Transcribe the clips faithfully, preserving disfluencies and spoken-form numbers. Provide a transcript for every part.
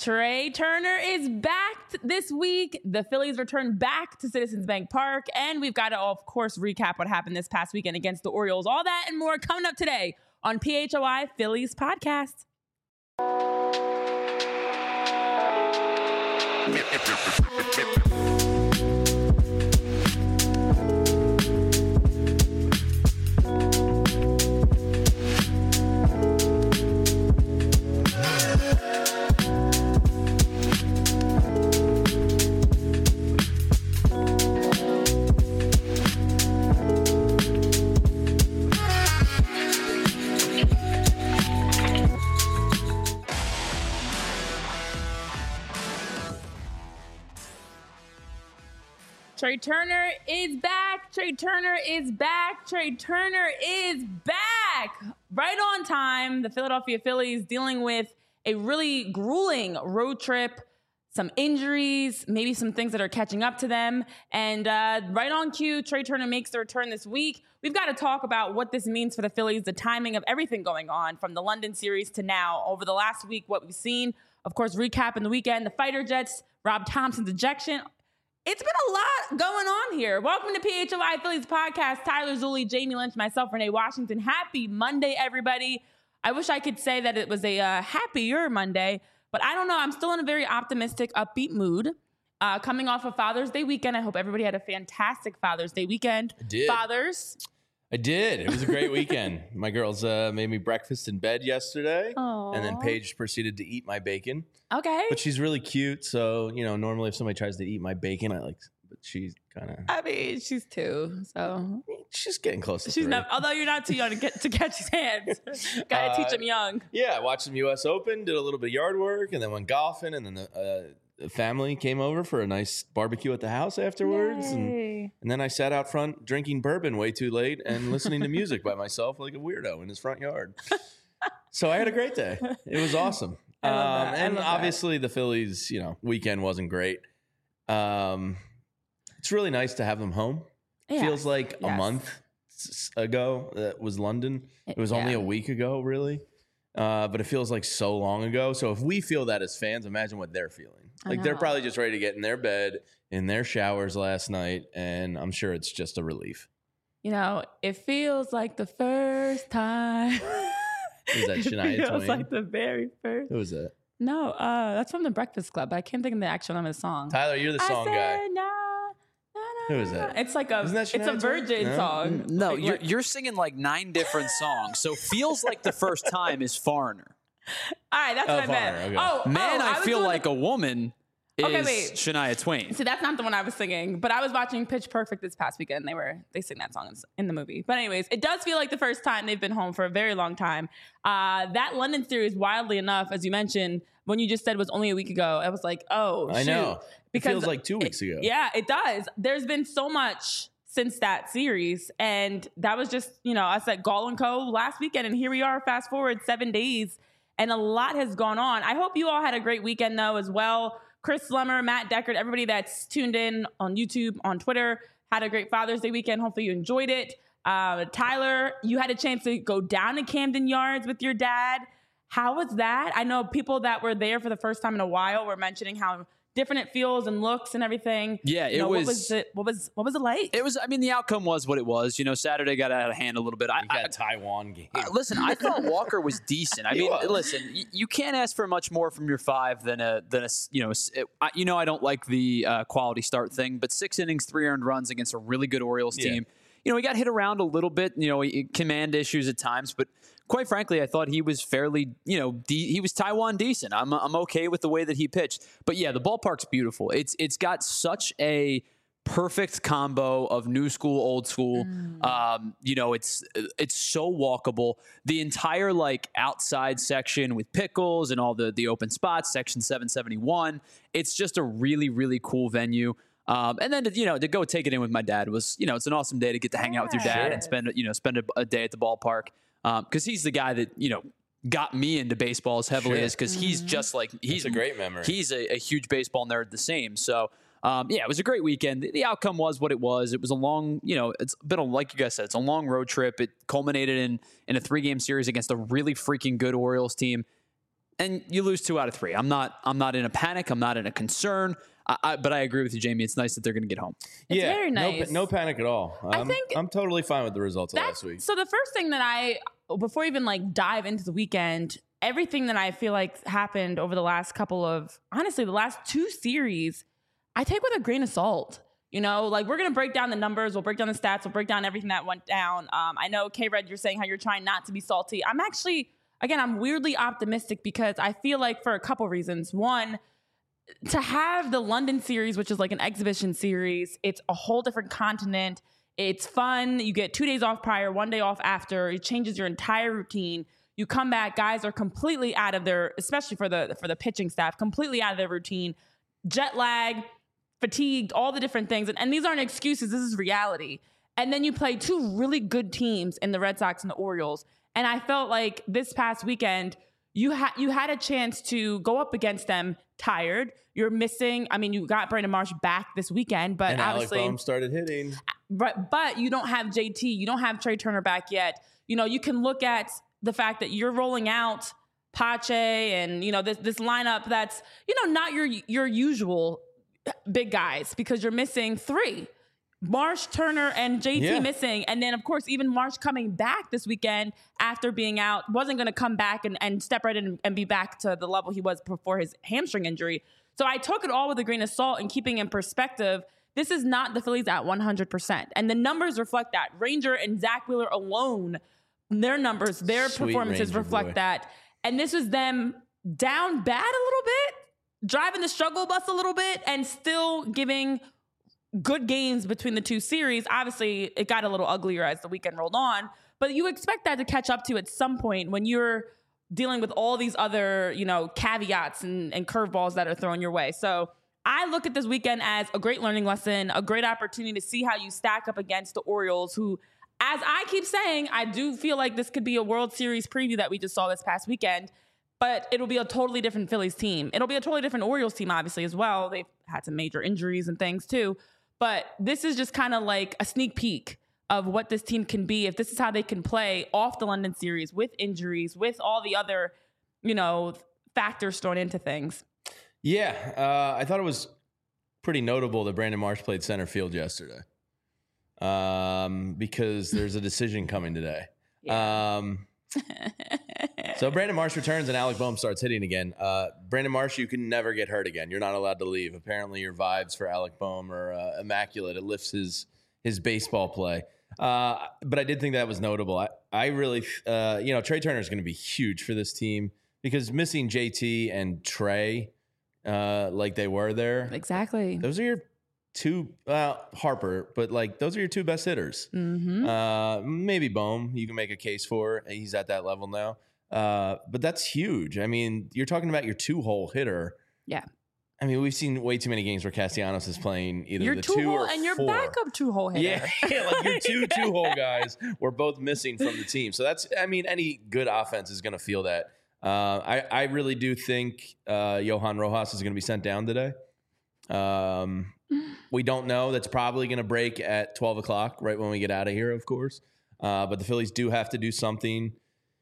Trea Turner is back this week. The Phillies return back to Citizens Bank Park, and we've got to, of course, recap what happened this past weekend against the Orioles. All that and more coming up today on P H O I Phillies Podcast. Trea Turner is back. Trea Turner is back. Trea Turner is back. Right on time. The Philadelphia Phillies dealing with a really grueling road trip, some injuries, maybe some things that are catching up to them. And uh, right on cue, Trea Turner makes the return this week. We've got to talk about what this means for the Phillies, the timing of everything going on from the London series to now. Over the last week, what we've seen, of course, recapping the weekend, the Fighter Jets, Rob Thompson's ejection. It's been a lot going on here. Welcome to P H O I Phillies Podcast. Tyler Zulli, Jamie Lynch, myself, Renee Washington. Happy Monday, everybody. I wish I could say that it was a uh, happier Monday, but I don't know. I'm still in a very optimistic, upbeat mood. Uh, coming off of Father's Day weekend, I hope everybody had a fantastic Father's Day weekend. I did. Fathers. I did. It was a great weekend. My girls uh, made me breakfast in bed yesterday. Aww. And then Paige proceeded to eat my bacon. Okay. But she's really cute. So, you know, normally if somebody tries to eat my bacon, I like, but she's kind of. I mean, she's two, so. She's getting close to She's three. not, although you're not too young to get to catch his hands. Gotta Uh, teach him young. Yeah, I watched some U S Open, did a little bit of yard work, and then went golfing. And then the, uh, the family came over for a nice barbecue at the house afterwards. And, and then I sat out front drinking bourbon way too late and listening to music by myself like a weirdo in his front yard. So I had a great day. It was awesome. I love Um, that. I and love obviously the Phillies, you know, weekend wasn't great. Um, it's really nice to have them home. Yes. Feels like Yes. a month s- ago that was London. It was only Yeah. a week ago, really. Uh, but it feels like so long ago. So if we feel that as fans, imagine what they're feeling. I Like they're know. probably just ready to get in their bed, in their showers last night, and I'm sure it's just a relief. You know, it feels like the first time. Is that Shania It feels Twain? like the very first. Who was that? No, uh, that's from the Breakfast Club, but I can't think of the actual name of the song. Tyler, you're the song I guy. said, nah, nah, nah, Who is that? It's like a, Isn't that it's a Shania Twain? Virgin No? song. No, Like, you're what- you're singing like nine different songs. So feels like the first time is Foreigner. All right, that's Oh, what I meant. Foreigner, okay. Oh, Man, oh, I, was feel doing like the- a woman is Okay, wait. Shania Twain. See, that's not the one I was singing, but I was watching Pitch Perfect this past weekend. They were they sing that song in, in the movie. But anyways, it does feel like the first time they've been home for a very long time. Uh, that London series, wildly enough, as you mentioned, when you just said was only a week ago, I was like, oh, I shoot. know. It feels like two weeks ago. Yeah, it does. There's been so much since that series, and that was just, you know, I said Gall and Co. last weekend, and here we are, fast forward seven days, and a lot has gone on. I hope you all had a great weekend, though, as well. Chris Slemmer, Matt Deckard, everybody that's tuned in on YouTube, on Twitter, had a great Father's Day weekend. Hopefully you enjoyed it. Uh, Tyler, you had a chance to go down to Camden Yards with your dad. How was that? I know people that were there for the first time in a while were mentioning how different it feels and looks and everything. Yeah, You it know, was- What was it? What was what was it like? It was. I mean, the outcome was what it was. You know, Saturday got out of hand a little bit. I, You got I a Taiwan game. Uh, listen, I thought Walker was decent. I He mean, was. listen, y- you can't ask for much more from your five than a than a s- you know. s- It, I, you know, I don't like the uh, quality start thing, but six innings, three earned runs against a really good Orioles Yeah. team. You know, he got hit around a little bit. You know, he, command issues at times, but quite frankly, I thought he was fairly. You know, de- he was Taiwan decent. I'm I'm okay with the way that he pitched. But yeah, the ballpark's beautiful. It's it's got such a perfect combo of new school, old school. Um, you know, it's it's so walkable. The entire like outside section with pickles and all the the open spots, section seven seventy-one. It's just a really really cool venue. Um, and then to, you know to go take it in with my dad was you know it's an awesome day to get to hang out with your dad Sure. and spend you know spend a, a day at the ballpark because he's the guy that you know got me into baseball as heavily Sure. as because he's just like he's a great memory. He's a, a huge baseball nerd the same. So um, yeah, it was a great weekend. The, the outcome was what it was. It was a long, you know, it's been a, like you guys said, it's a long road trip. It culminated in in a three game series against a really freaking good Orioles team. and you lose two out of three. I'm not I'm not in a panic. I'm not in a concern. I, I, but I agree with you, Jamie. It's nice that they're going to get home. It's yeah, very nice. No, no panic at all. I'm, I think I'm totally fine with the results of that's, last week. So the first thing that I, before even like dive into the weekend, everything that I feel like happened over the last couple of, honestly, the last two series, I take with a grain of salt. You know, like we're going to break down the numbers. We'll break down the stats. We'll break down everything that went down. Um, I know, K-Red, you're saying how you're trying not to be salty. I'm actually, again, I'm weirdly optimistic because I feel like for a couple reasons. One, to have the London series, which is like an exhibition series, it's a whole different continent. It's fun. You get two days off prior, one day off after. It changes your entire routine. You come back, guys are completely out of their, especially for the for the pitching staff, completely out of their routine. Jet lag, fatigued, all the different things. And, and these aren't excuses. This is reality. And then you play two really good teams in the Red Sox and the Orioles. And I felt like this past weekend, you had you had a chance to go up against them tired. You're missing. I mean, you got Brandon Marsh back this weekend, but and obviously, Alec Bohm started hitting. But but you don't have J T. You don't have Trey Turner back yet. You know, you can look at the fact that you're rolling out Pache and you know this this lineup that's you know not your your usual big guys because you're missing three. Marsh, Turner, and J T yeah. missing. And then, of course, even Marsh coming back this weekend after being out, wasn't going to come back and, and step right in and be back to the level he was before his hamstring injury. So I took it all with a grain of salt and keeping in perspective, this is not the Phillies at one hundred percent. And the numbers reflect that. Ranger and Zach Wheeler alone, their numbers, their Sweet performances Ranger reflect boy. that. And this was them down bad a little bit, driving the struggle bus a little bit, and still giving good games between the two series. Obviously, it got a little uglier as the weekend rolled on, but you expect that to catch up to at some point when you're dealing with all these other, you know, caveats and, and curveballs that are thrown your way. So I look at this weekend as a great learning lesson, a great opportunity to see how you stack up against the Orioles, who, as I keep saying, I do feel like this could be a World Series preview that we just saw this past weekend, but it'll be a totally different Phillies team. It'll be a totally different Orioles team, obviously, as well. They've had some major injuries and things, too. But this is just kind of like a sneak peek of what this team can be if this is how they can play off the London series with injuries, with all the other, you know, factors thrown into things. Yeah, uh, I thought it was pretty notable that Brandon Marsh played center field yesterday um, because there's a decision coming today. Yeah. Um, so Brandon Marsh returns and Alec Bohm starts hitting again. Uh, Brandon Marsh, you can never get hurt again. You're not allowed to leave. Apparently your vibes for Alec Bohm are uh, immaculate. It lifts his his baseball play. Uh, but I did think that was notable. I, I really, uh, you know, Trey Turner is going to be huge for this team because missing J T and Trey uh, like they were there. Exactly. Those are your two, well, Harper, but like those are your two best hitters. Mm-hmm. Uh, maybe Bohm, you can make a case for. He's at that level now. Uh, but that's huge. I mean, you're talking about your two-hole hitter. Yeah. I mean, we've seen way too many games where Castellanos is playing either your the two, two hole or and your four. backup two-hole hitter. Yeah, yeah, like your two two-hole guys were both missing from the team. So that's, I mean, any good offense is going to feel that. Uh, I, I really do think uh, Johan Rojas is going to be sent down today. Um, we don't know. That's probably going to break at twelve o'clock, right when we get out of here, of course. Uh, but the Phillies do have to do something.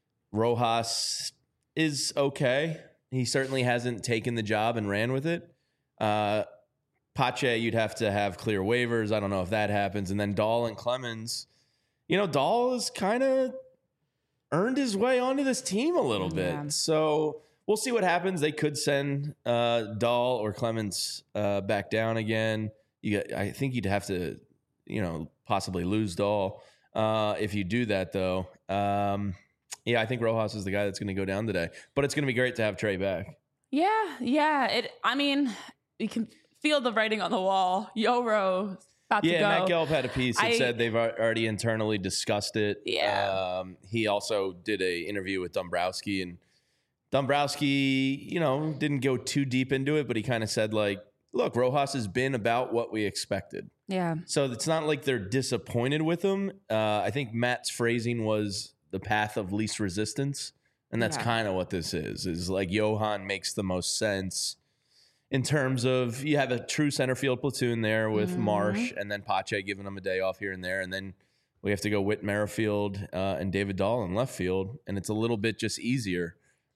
Rojas is okay. He certainly hasn't taken the job and ran with it. Uh, Pache, you'd have to have clear waivers. I don't know if that happens. And then Dahl and Clemens. You know, Dahl has kind of earned his way onto this team a little Yeah. bit. So we'll see what happens. They could send uh, Dahl or Clemens uh, back down again. You got, I think you'd have to, you know, possibly lose Dahl. Uh, if you do that, though, um, yeah, I think Rojas is the guy that's going to go down today. But it's going to be great to have Trey back. Yeah, yeah. It. I mean, you can feel the writing on the wall. Yoro about Yeah, to go. Matt Gelb had a piece that I- said they've al- already internally discussed it. Yeah. Um, he also did a interview with Dombrowski, and Dombrowski, you know, didn't go too deep into it, but he kind of said, like, look, Rojas has been about what we expected. Yeah. So it's not like they're disappointed with him. Uh, I think Matt's phrasing was the path of least resistance. And that's Yeah. kind of what this is, is like Johan makes the most sense in terms of you have a true center field platoon there with Mm-hmm. Marsh and then Pache giving them a day off here and there. And then we have to go Whit Merrifield uh, and David Dahl in left field. And it's a little bit just easier.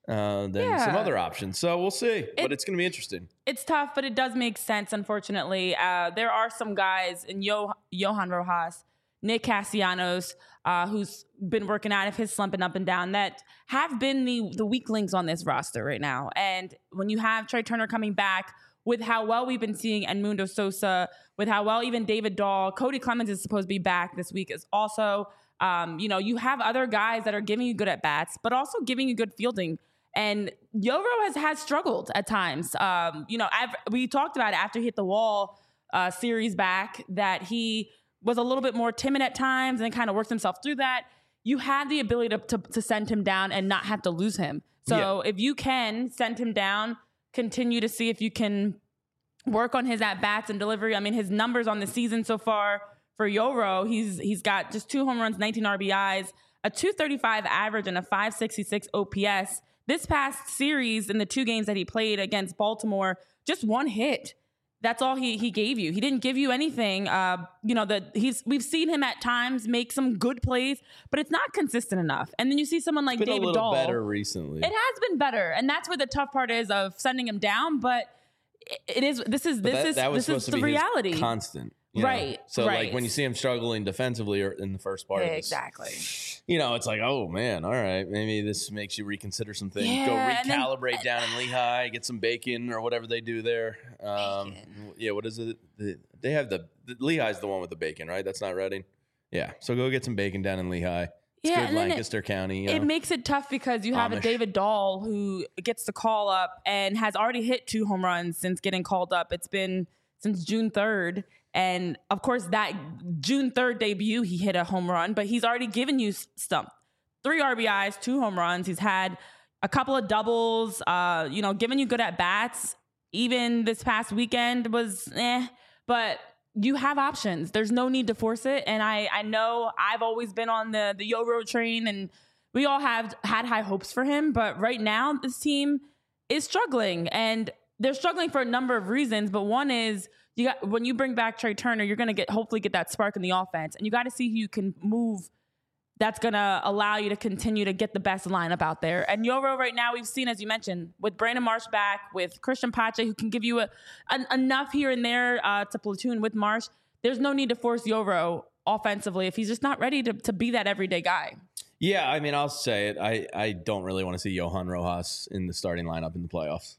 uh, than Yeah. some other options. So we'll see. It- but it's going to be interesting. It's tough, but it does make sense, unfortunately. Uh, there are some guys in Yo- Johan Rojas, Nick Castellanos, uh, who's been working out of his slumping up and down, that have been the, the weak links on this roster right now. And when you have Trey Turner coming back, with how well we've been seeing Edmundo Sosa, with how well even David Dahl, Cody Clemens is supposed to be back this week is also, um, you know, you have other guys that are giving you good at bats, but also giving you good fielding. And Yoro has, has struggled at times. Um, you know, I've, we talked about it after he hit the wall uh, series back, that he was a little bit more timid at times and kind of worked himself through that. You have the ability to, to, to send him down and not have to lose him. So yeah. if you can send him down, continue to see if you can work on his at-bats and delivery. I mean, his numbers on the season so far for Yoro, he's he's got just two home runs, nineteen R B Is, a two thirty-five average, and a five sixty-six O P S. This past series, in the two games that he played against Baltimore, just one hit. That's all he he gave you. He didn't give you anything. Uh, you know, that he's we've seen him at times make some good plays, but it's not consistent enough. And then you see someone like Been David a little Dahl. better recently. It has been better, and that's where the tough part is of sending him down. But it, it is. This is But this that, is that was this supposed is to the be reality. His constant. You know? Right, So right. like when you see him struggling defensively or in the first part of this, Exactly. you know, it's like, oh man, all right, maybe this makes you reconsider some things. Yeah, Go and then- recalibrate down in Lehigh, get some bacon or whatever they do there. Um, yeah, what is it? The, they have the, the Lehigh's the one with the bacon, right? That's not Reading. Yeah, so go get some bacon down in Lehigh. It's Yeah, good and then it- Lancaster County. You know? It makes it tough because you have a Amish. David Dahl who gets the call up and has already hit two home runs since getting called up. It's been since June third. And of course, that June third debut, he hit a home run, but he's already given you stump. Three R B Is, two home runs. He's had a couple of doubles, uh, you know, giving you good at bats. Even this past weekend was eh, but you have options. There's no need to force it. And I, I know I've always been on the, the Yoro train, and we all have had high hopes for him. But right now, this team is struggling, and they're struggling for a number of reasons. But one is, you got when you bring back Trey Turner, you're going to get hopefully get that spark in the offense, and you got to see who you can move. That's going to allow you to continue to get the best lineup out there. And Yoro right now, we've seen, as you mentioned, with Brandon Marsh back, with Christian Pache, who can give you a, an, enough here and there uh, to platoon with Marsh. There's no need to force Yoro offensively if he's just not ready to, to be that everyday guy. Yeah, I mean, I'll say it. I, I don't really want to see Johan Rojas in the starting lineup in the playoffs.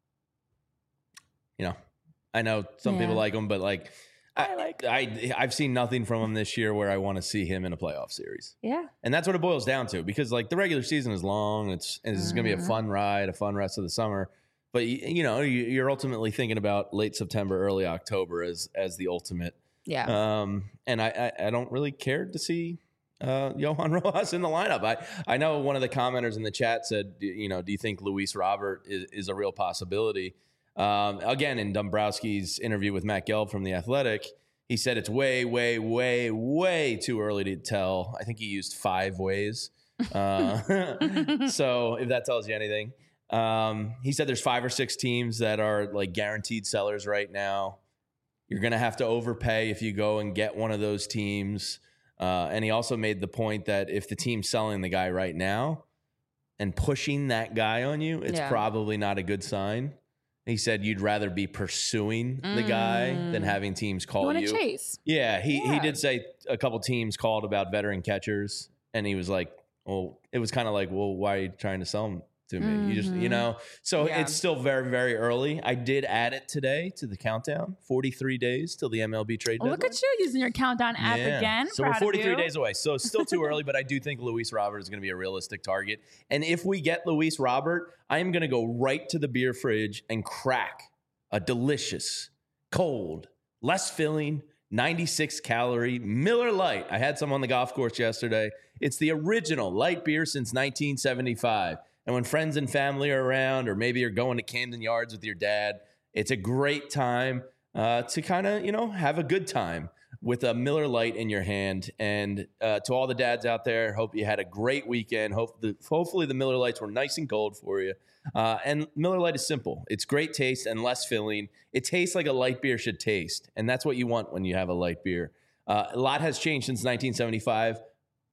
You know, I know some Yeah. people like him, but like, I, I like I, I've seen nothing from him this year where I want to see him in a playoff series. Yeah. And that's what it boils down to, because like the regular season is long. It's, it's going to be a Mhm. fun ride, a fun rest of the summer. But, you, you know, you- you're ultimately thinking about late September, early October as as the ultimate. Yeah. Um, and I, I, I don't really care to see uh, Johan Rojas in the lineup. I, I know one of the commenters in the chat said, do- you know, do you think Luis Robert is, is a real possibility? Um, again, in Dombrowski's interview with Matt Gelb from The Athletic, he said it's way, way, way, way too early to tell. I think he used five ways. Uh, so if that tells you anything. Um, he said there's five or six teams that are like guaranteed sellers right now. You're going to have to overpay if you go and get one of those teams. Uh, and he also made the point that if the team's selling the guy right now and pushing that guy on you, it's Yeah. probably not a good sign. He said you'd rather be pursuing the guy than Mm. having teams You call want you. to chase. Yeah, he, he Yeah. did say a couple teams called about veteran catchers, and he was like, well, it was kind of like, well, why are you trying to sell him to me? You just, you Mhm. know, so Yeah. it's still very, very early. I did add it today to the countdown, forty-three days till the M L B trade Oh, deadline. look at you using your countdown app Yeah. again. So Proud we're of forty-three you. days away. So it's still too early, but I do think Luis Robert is going to be a realistic target. And if we get Luis Robert, I am going to go right to the beer fridge and crack a delicious, cold, less filling, ninety-six calorie Miller Lite. I had some on the golf course yesterday. It's the original light beer since nineteen seventy-five. And when friends and family are around, or maybe you're going to Camden Yards with your dad, it's a great time uh, to kind of, you know, have a good time with a Miller Lite in your hand. And uh, to all the dads out there, hope you had a great weekend. Hope the, hopefully the Miller Lites were nice and cold for you. Uh, and Miller Lite is simple. It's great taste and less filling. It tastes like a light beer should taste. And that's what you want when you have a light beer. Uh, a lot has changed since nineteen seventy-five.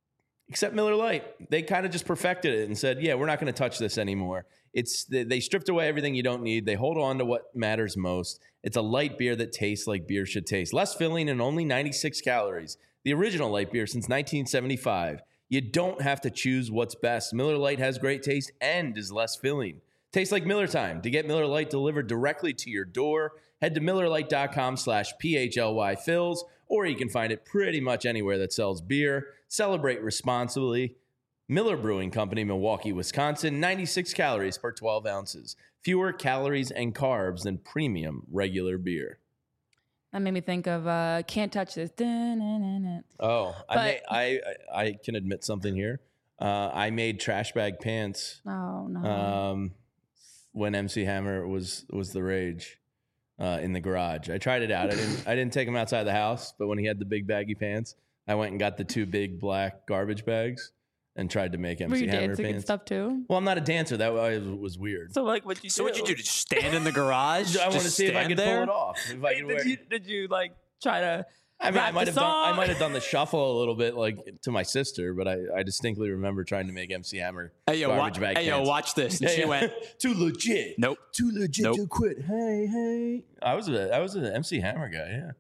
except Miller Lite. They kind of just perfected it and said, yeah, we're not going to touch this anymore. It's they stripped away everything you don't need. They hold on to what matters most. It's a light beer that tastes like beer should taste. Less filling and only ninety-six calories. The original light beer since nineteen seventy-five. You don't have to choose what's best. Miller Lite has great taste and is less filling. Tastes like Miller time. To get Miller Lite delivered directly to your door, head to MillerLite.com slash PHLY fills, or you can find it pretty much anywhere that sells beer. Celebrate responsibly. Miller Brewing Company, Milwaukee, Wisconsin, ninety-six calories per twelve ounces. Fewer calories and carbs than premium regular beer. That made me think of uh, Can't Touch This. Dun-dun-dun-dun. Oh, But- I, may, I I I can admit something here. Uh, I made trash bag pants Oh, no. um, when M C Hammer was was the rage uh, in the garage. I tried it out. I didn't I didn't take him outside the house, but when he had the big baggy pants, I went and got the two big black garbage bags and tried to make M Were C you Hammer dancing and pants. stuff too? Well, I'm not a dancer. That was, was weird. So, like, what you So do? what'd you do? Just stand in the garage? I want to Just see if I stand could there? pull it off. If I Wait, could wear, did you, did you, like, try to I mean, I rap might the have done. I song? might have done the shuffle a little bit, like to my sister, but I, I distinctly remember trying to make M C Hammer Hey, yo, garbage wa- bag hey, yo, pants. watch this. And Yeah, she yeah. went, too legit. nope. Too legit Nope. to quit. Hey, hey. I was a I was an M C Hammer guy. Yeah.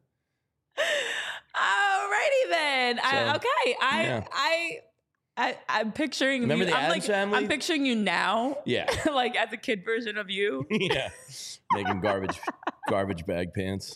Alrighty then. I, So, okay. I, yeah. I, I, I'm picturing Remember you. the I'm Addams like, Family? I'm picturing you now. Yeah. Like as a kid version of you. Yeah. Making garbage garbage bag pants.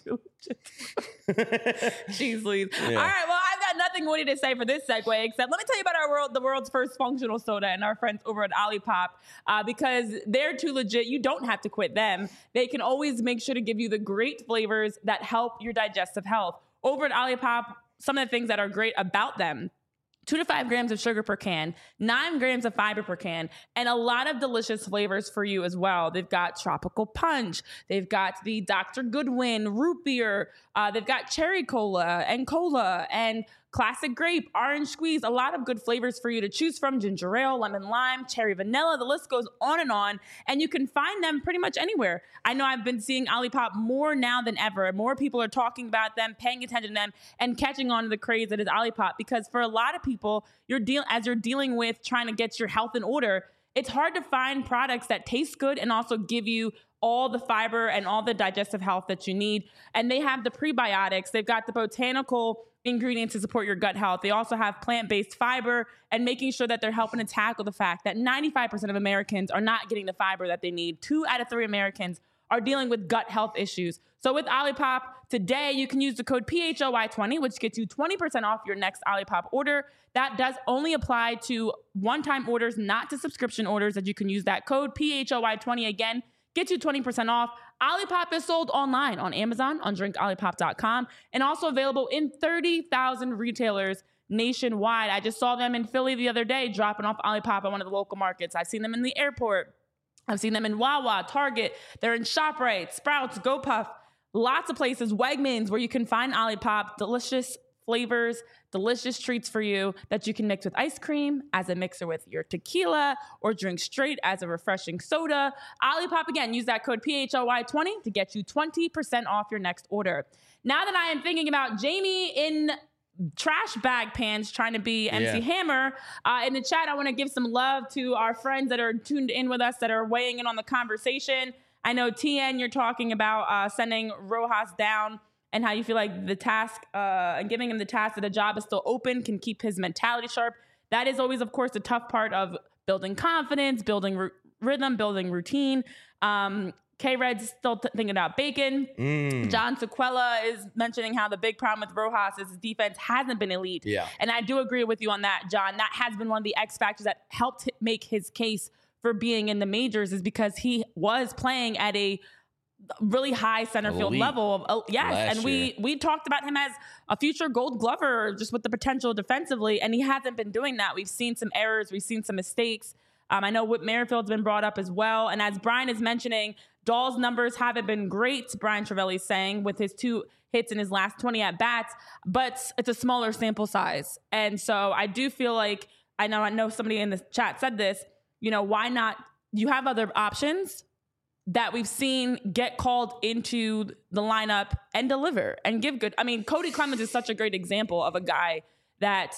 Jeez Louise. Yeah. All right. Well, I've got nothing witty to say for this segue, except let me tell you about our world, the world's first functional soda, and our friends over at Olipop, uh, because they're too legit. You don't have to quit them. They can always make sure to give you the great flavors that help your digestive health. Over at Olipop, some of the things that are great about them: two to five grams of sugar per can, nine grams of fiber per can, and a lot of delicious flavors for you as well. They've got tropical punch. They've got the Doctor Goodwin root beer. Uh, they've got cherry cola and cola and classic grape, orange squeeze. A lot of good flavors for you to choose from: ginger ale, lemon lime, cherry vanilla. The list goes on and on. And you can find them pretty much anywhere. I know I've been seeing Olipop more now than ever. More people are talking about them, paying attention to them, and catching on to the craze that is Olipop. Because for a lot of people, you're deal as you're dealing with trying to get your health in order, it's hard to find products that taste good and also give you all the fiber and all the digestive health that you need. And they have the prebiotics. They've got the botanical ingredients to support your gut health. They also have plant-based fiber and making sure that they're helping to tackle the fact that ninety-five percent of Americans are not getting the fiber that they need. Two out of three Americans are dealing with gut health issues. So with Olipop, today you can use the code P H O Y twenty, which gets you twenty percent off your next Olipop order. That does only apply to one-time orders, not to subscription orders, that you can use that code P H O Y twenty again. Get you twenty percent off. Olipop is sold online on Amazon, on drink olipop dot com, and also available in thirty thousand retailers nationwide. I just saw them in Philly the other day, dropping off Olipop at one of the local markets. I've seen them in the airport. I've seen them in Wawa, Target. They're in ShopRite, Sprouts, GoPuff, lots of places, Wegmans, where you can find Olipop. Delicious flavors, delicious treats for you that you can mix with ice cream, as a mixer with your tequila, or drink straight as a refreshing soda. Olipop, again, use that code P H O Y twenty to get you twenty percent off your next order. Now that I am thinking about Jamie in trash bag pants trying to be M C Yeah. Hammer, uh, in the chat, I want to give some love to our friends that are tuned in with us, that are weighing in on the conversation. I know, T N, you're talking about uh, sending Rojas down, and how you feel like the task uh, and giving him the task that the job is still open can keep his mentality sharp. That is always, of course, the tough part of building confidence, building r- rhythm, building routine. Um, K-Red's still t- thinking about Bacon. Mm. John Sequella is mentioning how the big problem with Rojas is his defense hasn't been elite. Yeah. And I do agree with you on that, John. That has been one of the X factors that helped make his case for being in the majors, is because he was playing at a really high center field Elite. level. Of, oh, yes. Last And we, year. we talked about him as a future gold glover, just with the potential defensively. And he hasn't been doing that. We've seen some errors. We've seen some mistakes. Um, I know Whit Merrifield's been brought up as well. And as Brian is mentioning, Dahl's numbers haven't been great, Brian Travelli's saying, with his two hits in his last twenty at-bats, but it's a smaller sample size. And so I do feel like, I know I know somebody in the chat said this, you know, why not? You have other options that we've seen get called into the lineup and deliver and give good. I mean, Cody Clemens is such a great example of a guy that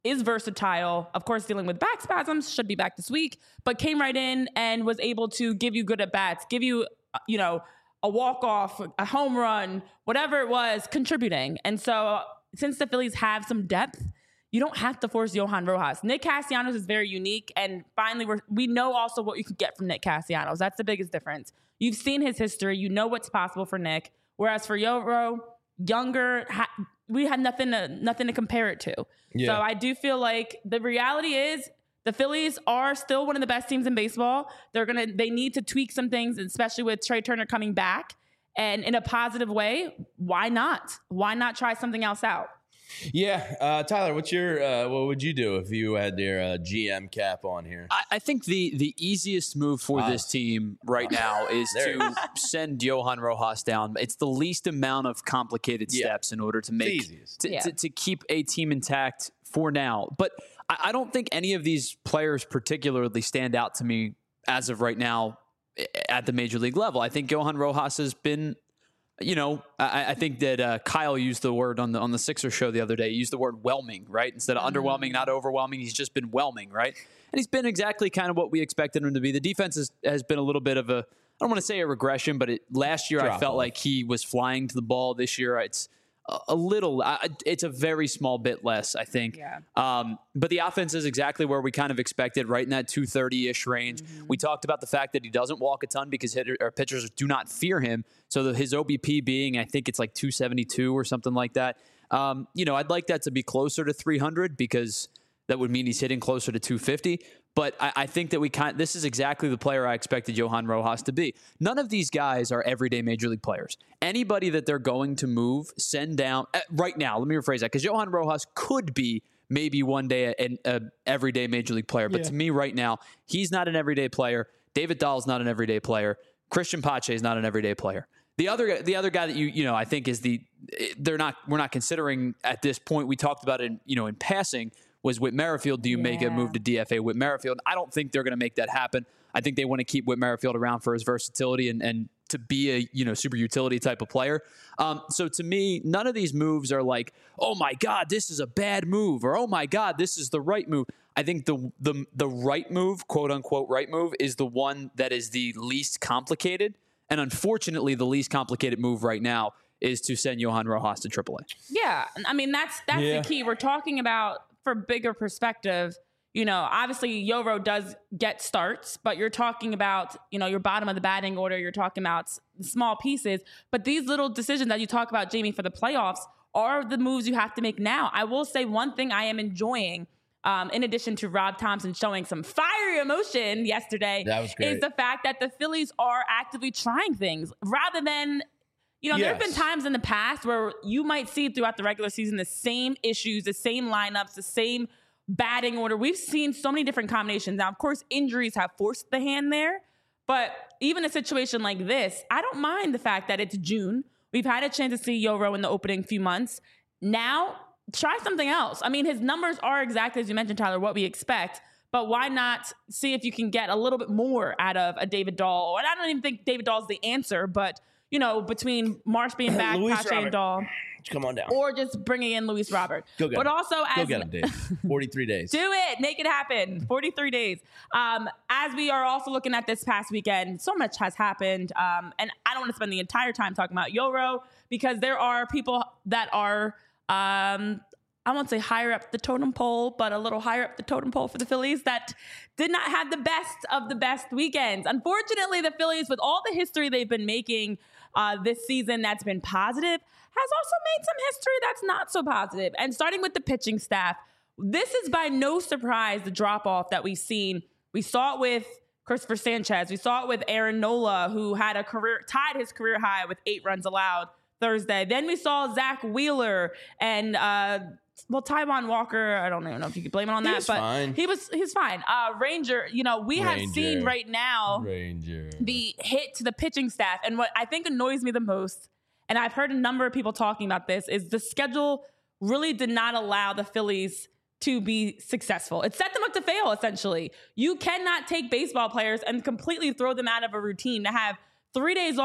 is versatile. Of course, dealing with back spasms, should be back this week, but came right in and was able to give you good at bats, give you, you know, a walk-off, a home run, whatever it was, contributing. And so since the Phillies have some depth, you don't have to force Johan Rojas. Nick Castellanos is very unique. And finally, we're, we know also what you can get from Nick Castellanos. That's the biggest difference. You've seen his history. You know what's possible for Nick. Whereas for Yoro, younger, ha- we had nothing to, nothing to compare it to. Yeah. So I do feel like the reality is the Phillies are still one of the best teams in baseball. They're going to, they need to tweak some things, especially with Trey Turner coming back. And in a positive way, why not? Why not try something else out? Yeah, uh, Tyler, what's your uh, what would you do if you had your uh, G M cap on here? I, I think the the easiest move for uh, this team right now is to send Johan Rojas down. It's the least amount of complicated yeah. steps in order to make to, yeah. to, to keep a team intact for now. But I, I don't think any of these players particularly stand out to me as of right now at the major league level. I think Johan Rojas has been. You know, I, I think that uh, Kyle used the word on the on the Sixers show the other day. He used the word whelming, right? Instead of mm-hmm. underwhelming, not overwhelming. He's just been whelming, right? And he's been exactly kind of what we expected him to be. The defense has, has been a little bit of a, I don't want to say a regression, but it, last year Drop I felt off. like he was flying to the ball. This year it's a, a little, uh, it's a very small bit less, I think. Yeah. Um, but the offense is exactly where we kind of expected, right in that two thirty-ish range. Mm-hmm. We talked about the fact that he doesn't walk a ton because hitter, or pitchers do not fear him. So the, his O B P being, I think it's like two seventy-two or something like that. Um, you know, I'd like that to be closer to three hundred because that would mean he's hitting closer to two fifty. But I, I think that we kind this is exactly the player I expected Johan Rojas to be. None of these guys are everyday major league players. Anybody that they're going to move, send down uh, right now. Let me rephrase that because Johan Rojas could be maybe one day an a everyday major league player. But yeah. to me right now, he's not an everyday player. David Dahl's not an everyday player. Christian Pache is not an everyday player. The other the other guy that you you know I think is the they're not we're not considering at this point. We talked about it in, you know in passing. Was Whit Merrifield. Do you yeah. make a move to D F A Whit Merrifield? I don't think they're going to make that happen. I think they want to keep Whit Merrifield around for his versatility and, and to be a you know super utility type of player. Um, so to me, none of these moves are like, oh my God, this is a bad move, or oh my God, this is the right move. I think the the the right move, quote unquote, right move, is the one that is the least complicated. And unfortunately, the least complicated move right now is to send Johan Rojas to triple A. Yeah, I mean that's that's yeah. the key. We're talking about. For bigger perspective, you know, obviously Yoro does get starts, but you're talking about, you know, your bottom of the batting order. You're talking about small pieces, but these little decisions that you talk about, Jamie, for the playoffs are the moves you have to make now. I will say one thing I am enjoying, um, in addition to Rob Thompson showing some fiery emotion yesterday, that was great. Is the fact that the Phillies are actively trying things rather than, you know, yes. there have been times in the past where you might see throughout the regular season the same issues, the same lineups, the same batting order. We've seen so many different combinations. Now, of course, injuries have forced the hand there, but even a situation like this, I don't mind the fact that it's June. We've had a chance to see Yoro in the opening few months. Now, try something else. I mean, his numbers are exactly, as you mentioned, Tyler, what we expect, but why not see if you can get a little bit more out of a David Dahl? And I don't even think David Dahl's the answer, but you know, between Marsh being back, Pache and Dahl. Come on down. Or just bringing in Luis Robert. Go get but him. also Go as get him, Dave. forty-three days. Do it. Make it happen. forty-three days. Um, as we are also looking at this past weekend, so much has happened. Um, and I don't want to spend the entire time talking about Yoro because there are people that are, um, I won't say higher up the totem pole, but a little higher up the totem pole for the Phillies that did not have the best of the best weekends. Unfortunately, the Phillies, with all the history they've been making uh, this season that's been positive, has also made some history that's not so positive. And starting with the pitching staff, this is by no surprise the drop-off that we've seen. We saw it with Christopher Sanchez. We saw it with Aaron Nola, who had a career tied his career high with eight runs allowed Thursday. Then we saw Zach Wheeler and uh, well, Taijuan Walker. I don't even know if you could blame it on he that, was but fine. he was he's fine. Uh, Ranger, you know, we Ranger. have seen right now Ranger. the hit to the pitching staff, and what I think annoys me the most, and I've heard a number of people talking about this, is the schedule really did not allow the Phillies to be successful. It set them up to fail, essentially. You cannot take baseball players and completely throw them out of a routine to have three days off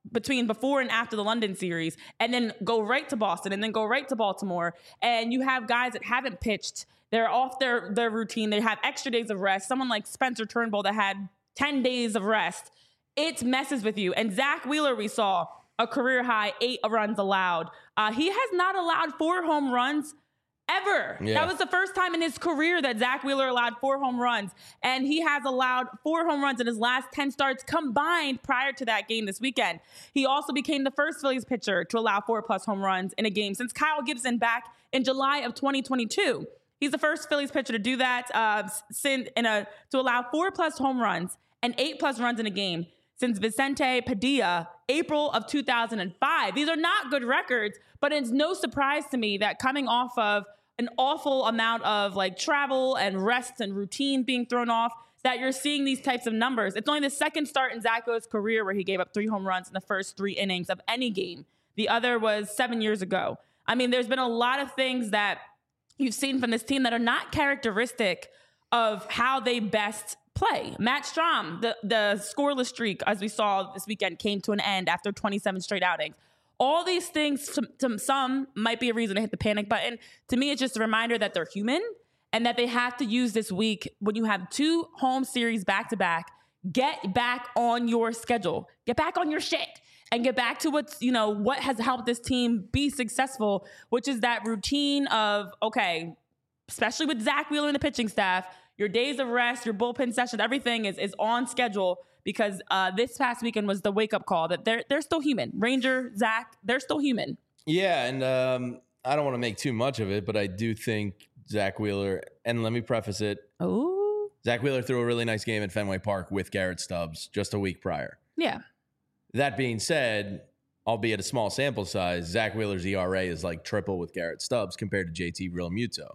between before and after the London series, and then go right to Boston, and then go right to Baltimore. And you have guys that haven't pitched. They're off their, their routine. They have extra days of rest. Someone like Spencer Turnbull that had ten days of rest. It messes with you. And Zach Wheeler, we saw a career high eight runs allowed. Uh, he has not allowed four home runs ever. Yeah. That was the first time in his career that Zach Wheeler allowed four home runs. And he has allowed four home runs in his last ten starts combined prior to that game this weekend. He also became the first Phillies pitcher to allow four plus home runs in a game since Kyle Gibson back in July of twenty twenty-two. He's the first Phillies pitcher to do that, uh, since in a to allow four plus home runs and eight plus runs in a game since Vicente Padilla, April of two thousand five. These are not good records, but it's no surprise to me that coming off of an awful amount of like travel and rest and routine being thrown off, that you're seeing these types of numbers. It's only the second start in Zacho's career where he gave up three home runs in the first three innings of any game. The other was seven years ago. I mean, there's been a lot of things that you've seen from this team that are not characteristic of how they best play. Matt Strahm, the, the scoreless streak, as we saw this weekend, came to an end after twenty-seven straight outings. All these things, to, to some, might be a reason to hit the panic button. To me, it's just a reminder that they're human and that they have to use this week, when you have two home series back-to-back, get back on your schedule. Get back on your shit. And get back to what's, you know, what has helped this team be successful, which is that routine of, okay, especially with Zach Wheeler and the pitching staff, your days of rest, your bullpen sessions, everything is is on schedule, because uh, this past weekend was the wake-up call that they're they're still human. Ranger, Zach, they're still human. Yeah, and um, I don't want to make too much of it, but I do think Zach Wheeler, and let me preface it. Oh, Zach Wheeler threw a really nice game at Fenway Park with Garrett Stubbs just a week prior. Yeah. That being said, albeit a small sample size, Zach Wheeler's E R A is like triple with Garrett Stubbs compared to J T Realmuto.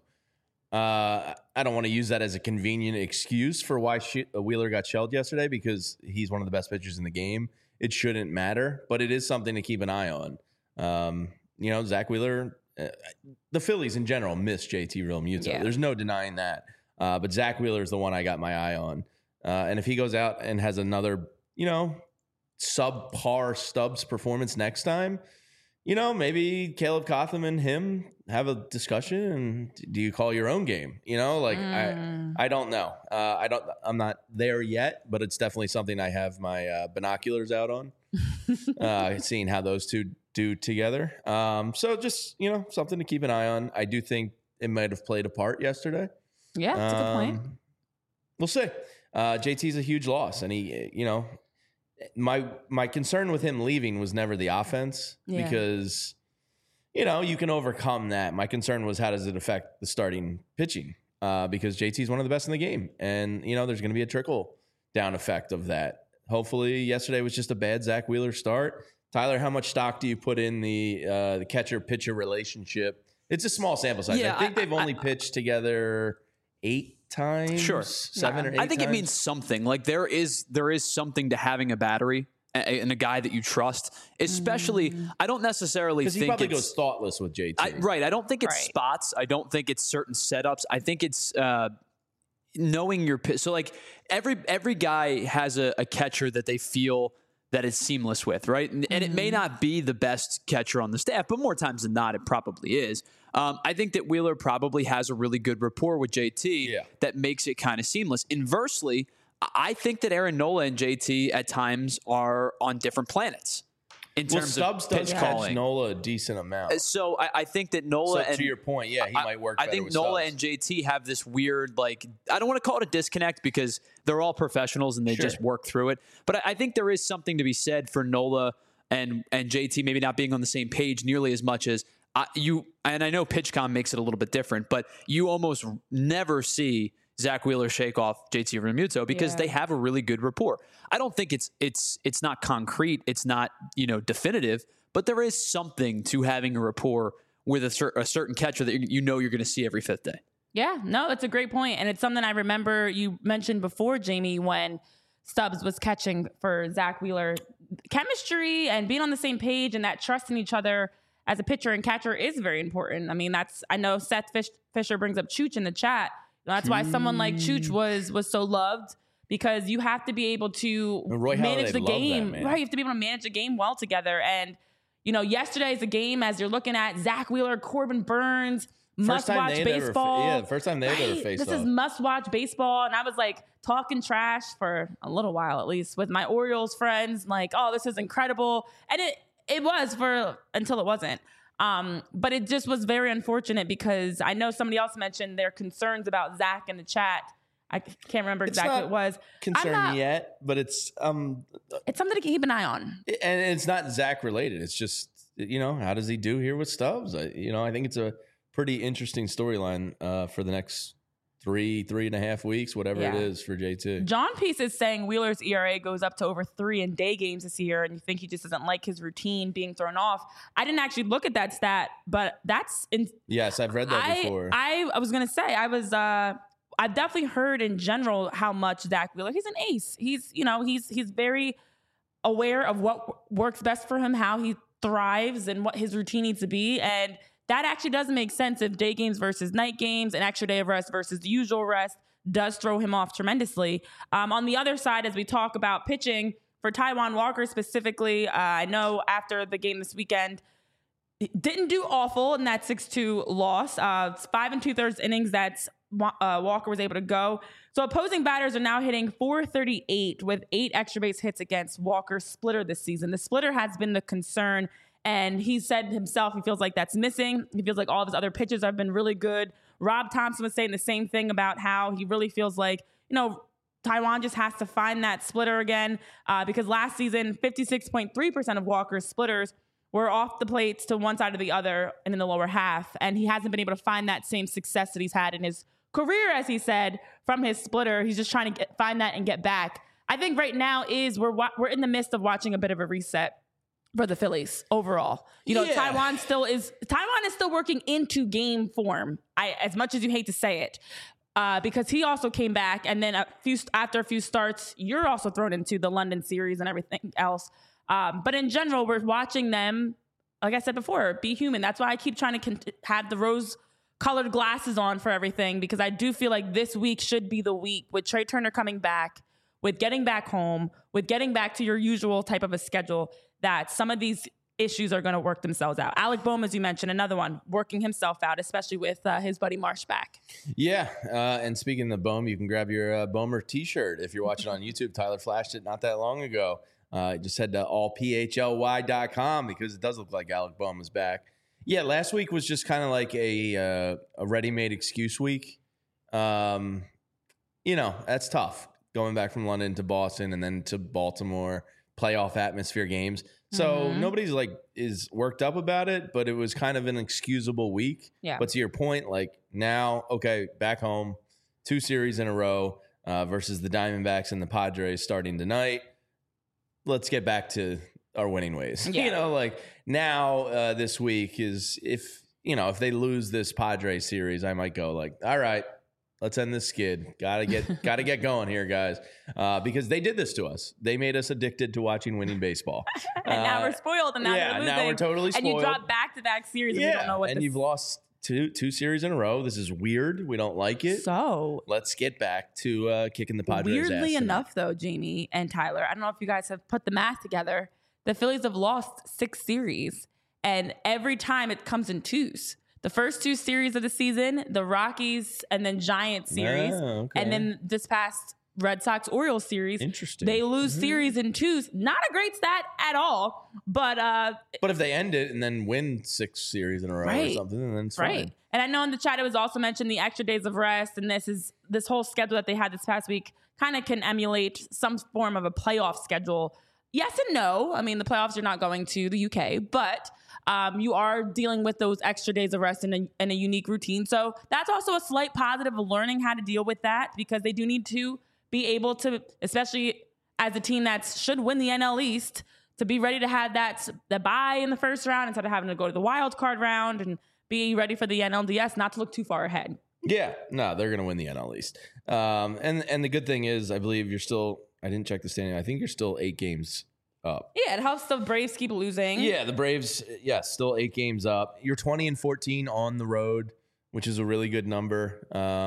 Uh, I don't want to use that as a convenient excuse for why she, uh, Wheeler got shelled yesterday, because he's one of the best pitchers in the game. It shouldn't matter, but it is something to keep an eye on. Um, you know, Zach Wheeler, uh, the Phillies in general miss J T Realmuto. Yeah. There's no denying that. Uh, but Zach Wheeler is the one I got my eye on. Uh, and if he goes out and has another, you know, subpar Stubbs performance next time, you know, maybe Caleb Cotham and him have a discussion, and do you call your own game? You know, like mm. I, I don't know. Uh, I don't. I'm not there yet, but it's definitely something I have my uh, binoculars out on, uh, seeing how those two do together. Um, so just, you know, something to keep an eye on. I do think it might have played a part yesterday. Yeah, that's um, a good point. We'll see. Uh, J T's a huge loss, and he, you know, my my concern with him leaving was never the offense, yeah. because, you know, you can overcome that. My concern was, how does it affect the starting pitching? Uh, because J T is one of the best in the game, and, you know, there's going to be a trickle down effect of that. Hopefully, yesterday was just a bad Zach Wheeler start. Tyler, how much stock do you put in the uh, the catcher pitcher relationship? It's a small sample size. Yeah, I think I, they've I, only I, pitched together eight times, sure, seven yeah. or eight. I think times. It means something. Like there is there is something to having a battery and a guy that you trust. Especially, mm. I don't necessarily think he probably it's, goes thoughtless with J T. I, right. I don't think it's right. spots. I don't think it's certain setups. I think it's uh, knowing your pitch. So like every every guy has a, a catcher that they feel that is seamless with, right? And, mm-hmm. and it may not be the best catcher on the staff, but more times than not, it probably is. Um, I think that Wheeler probably has a really good rapport with J T yeah. that makes it kind of seamless. Inversely, I think that Aaron Nola and J T at times are on different planets in well, terms Stubbs of does pitch catch calling. Nola a decent amount. So I, I think that Nola so and to your point, yeah, he I, might work. I think with Nola Stubbs. and J T have this weird, like, I don't want to call it a disconnect because they're all professionals and they sure. just work through it. But I, I think there is something to be said for Nola and and J T maybe not being on the same page nearly as much as I, you. And I know PitchCom makes it a little bit different, but you almost never see Zach Wheeler shake off J T Realmuto because yeah. they have a really good rapport. I don't think it's it's it's not concrete, it's not, you know, definitive, but there is something to having a rapport with a, cer- a certain catcher that you know you're going to see every fifth day. Yeah, no, it's a great point, and it's something I remember you mentioned before, Jamie, when Stubbs was catching for Zach Wheeler. Chemistry and being on the same page and that trust in each other as a pitcher and catcher is very important. I mean, that's I know Seth Fish, Fisher brings up Chooch in the chat. That's why someone like Chooch was was so loved because you have to be able to Roy manage Halladay the loved game. that, man. Right. You have to be able to manage the game well together. And, you know, yesterday's a game as you're looking at Zach Wheeler, Corbin Burns, First time must-watch they'd ever fa- baseball. yeah, the first time they'd ever Right? faced This is off. must-watch baseball. And I was like talking trash for a little while, at least, with my Orioles friends. Like, oh, this is incredible. And it, it was for until it wasn't. Um, but it just was very unfortunate because I know somebody else mentioned their concerns about Zach in the chat. I can't remember It's exactly not what it was. concern I'm not- yet, but it's um, It's something to keep an eye on. and it's not Zach related. It's just, you know, how does he do here with Stubbs? I, you know, I think it's a pretty interesting storyline uh, for the next three, three and a half weeks, whatever Yeah. it is for J two. John Peace is saying Wheeler's E R A goes up to over three in day games this year, and you think he just doesn't like his routine being thrown off. I didn't actually look at that stat, but that's in, Yes, I've read that I, before. I I was gonna say I was uh I've definitely heard in general how much Zach Wheeler, he's an ace. He's you know he's he's very aware of what works best for him, how he thrives, and what his routine needs to be. And that actually does make sense if day games versus night games, an extra day of rest versus the usual rest does throw him off tremendously. Um, on the other side, as we talk about pitching for Taijuan Walker specifically, uh, I know after the game this weekend, didn't do awful in that six two loss. Uh, it's five and two thirds innings that uh, Walker was able to go. So opposing batters are now hitting four thirty-eight with eight extra base hits against Walker's splitter this season. The splitter has been the concern, and he said himself he feels like that's missing. He feels like all of his other pitches have been really good. Rob Thompson was saying the same thing about how he really feels like, you know, Taijuan just has to find that splitter again uh, because last season, fifty-six point three percent of Walker's splitters were off the plates to one side or the other and in the lower half. And he hasn't been able to find that same success that he's had in his career, as he said, from his splitter. He's just trying to get, find that and get back. I think right now is we're wa- we're in the midst of watching a bit of a reset for the Phillies overall. You know, Yeah. Taijuan still is Taijuan is still working into game form. I as much as you hate to say it. Uh, because he also came back, and then a few after a few starts, you're also thrown into the London series and everything else. Um, but in general, we're watching them, like I said before, be human. That's why I keep trying to con- have the rose-colored glasses on for everything, because I do feel like this week should be the week with Trey Turner coming back, with getting back home, with getting back to your usual type of a schedule, that some of these issues are going to work themselves out. Alec Bohm, as you mentioned, another one, working himself out, especially with uh, his buddy Marsh back. Yeah, uh, and speaking of Bohm, you can grab your uh, Bohmer T-shirt if you're watching on YouTube. Tyler flashed it not that long ago. Uh, just head to all p h l y dot com because it does look like Alec Bohm is back. Yeah, last week was just kind of like a uh, a ready-made excuse week. Um, you know, that's tough going back from London to Boston and then to Baltimore, playoff atmosphere games. So Mhm. nobody's like is worked up about it, but it was kind of an excusable week. Yeah. But to your point, like now, okay, back home, two series in a row uh, versus the Diamondbacks and the Padres starting tonight. Let's get back to our winning ways. Yeah. You know, like now uh, this week is if, you know, if they lose this Padres series, I might go like, all right, let's end this skid. Gotta get, gotta get going here, guys, uh, because they did this to us. They made us addicted to watching winning baseball, And now Uh, we're spoiled, and now yeah, they're now losing. we're totally And you spoiled. drop back-to-back series, and we don't know what and this you've lost two two series in a row. This is weird. We don't like it. So, Let's get back to uh, kicking the Padres' ass weirdly tonight. enough, though, Jamie and Tyler, I don't know if you guys have put the math together. The Phillies have lost six series, and every time it comes in twos. The first two series of the season, the Rockies and then Giants series, Oh, okay. and then this past Red Sox Orioles series. Interesting. They lose Mhm. series in twos. Not a great stat at all, but uh, But if they end it and then win six series in a row or Right. something, then it's right. fine. And I know in the chat it was also mentioned the extra days of rest, and this is this whole schedule that they had this past week kind of can emulate some form of a playoff schedule. Yes and no. I mean, the playoffs, you're not going to the U K, but um, you are dealing with those extra days of rest in a, in a unique routine. So that's also a slight positive of learning how to deal with that, because they do need to be able to, especially as a team that should win the N L East, to be ready to have that the bye in the first round instead of having to go to the wild card round, and be ready for the N L D S, not to look too far ahead. Yeah, no, they're going to win the N L East. Um, and and the good thing is, I believe you're still. I didn't check the standing. I think you're still eight games up. Yeah, it helps the Braves keep losing. Yeah, the Braves. Yeah, still eight games up. You're twenty and fourteen on the road, which is a really good number. Um,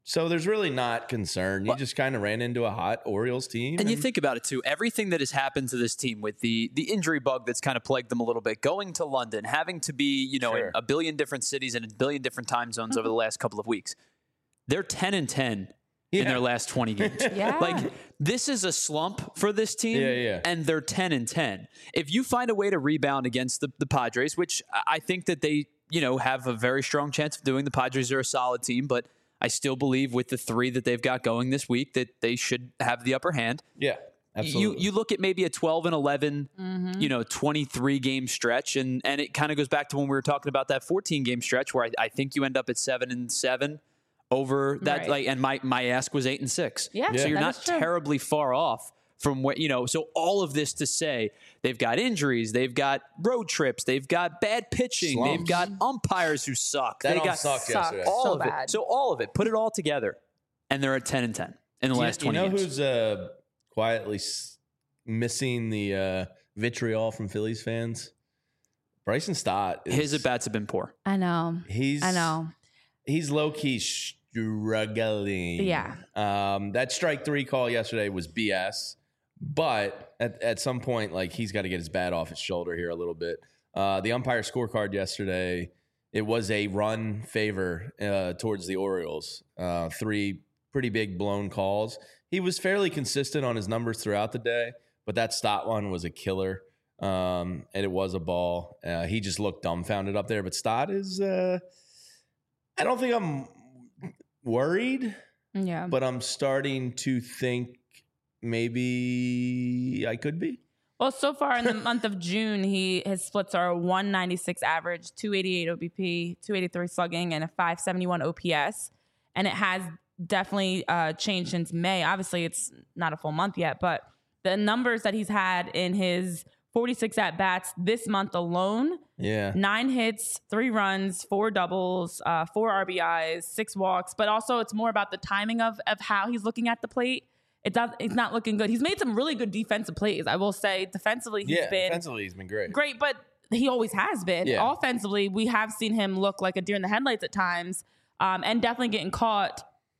So there's really not concern. You Well, just kind of ran into a hot Orioles team. And you think about it too, everything that has happened to this team with the the injury bug that's kind of plagued them a little bit, going to London, having to be, you know, Sure. in a billion different cities and a billion different time zones over the last couple of weeks. They're ten and ten in Yeah. their last twenty games. Yeah. Like this is a slump for this team, Yeah, yeah. and they're ten and ten. If you find a way to rebound against the, the Padres, which I I think that they, you know, have a very strong chance of doing. The Padres are a solid team, but I still believe with the three that they've got going this week that they should have the upper hand. Yeah, absolutely. You you look at maybe a twelve and eleven, Mm-hmm. you know, twenty-three game stretch, and and it kind of goes back to when we were talking about that fourteen game stretch where I, I think you end up at seven and seven over that. Right. Like, and my my ask was eight and six. Yeah, so you're that not is true. terribly far off from what you know. So all of this to say, they've got injuries, they've got road trips, they've got bad pitching, they've Slumps. got umpires who suck. That they all got sucked sucked. yesterday. all So of bad. it. So all of it, put it all together, and they're at ten and ten in the You- last you twenty know games. who's uh, quietly s- missing the uh, vitriol from Phillies fans? Bryson Stott. Is, His at bats have been poor. I know. He's I know. He's low key struggling. Yeah. Um, that strike three call yesterday was B S, but at, at some point, like he's got to get his bat off his shoulder here a little bit. Uh, the umpire scorecard yesterday, it was a run favor uh, towards the Orioles. Uh, three pretty big blown calls. He was fairly consistent on his numbers throughout the day, but that Stott one was a killer. Um, and it was a ball. Uh, he just looked dumbfounded up there. But Stott is, uh, I don't think I'm worried, Yeah. but I'm starting to think maybe I could be. Well, so far in the month of June, he his splits are one ninety-six average, two eighty-eight O B P, two eighty-three slugging, and a five seventy-one O P S. And it has definitely uh, changed since May. Obviously, it's not a full month yet, but the numbers that he's had in his forty-six at bats this month alone: Yeah. nine hits, three runs, four doubles, uh, four R B Is, six walks. But also, it's more about the timing of of how he's looking at the plate. It does. It's not looking good. He's made some really good defensive plays. I will say, defensively, he's Yeah. been Defensively, he's been great. great, but he always has been. Yeah. Offensively, we have seen him look like a deer in the headlights at times, um, and definitely getting caught.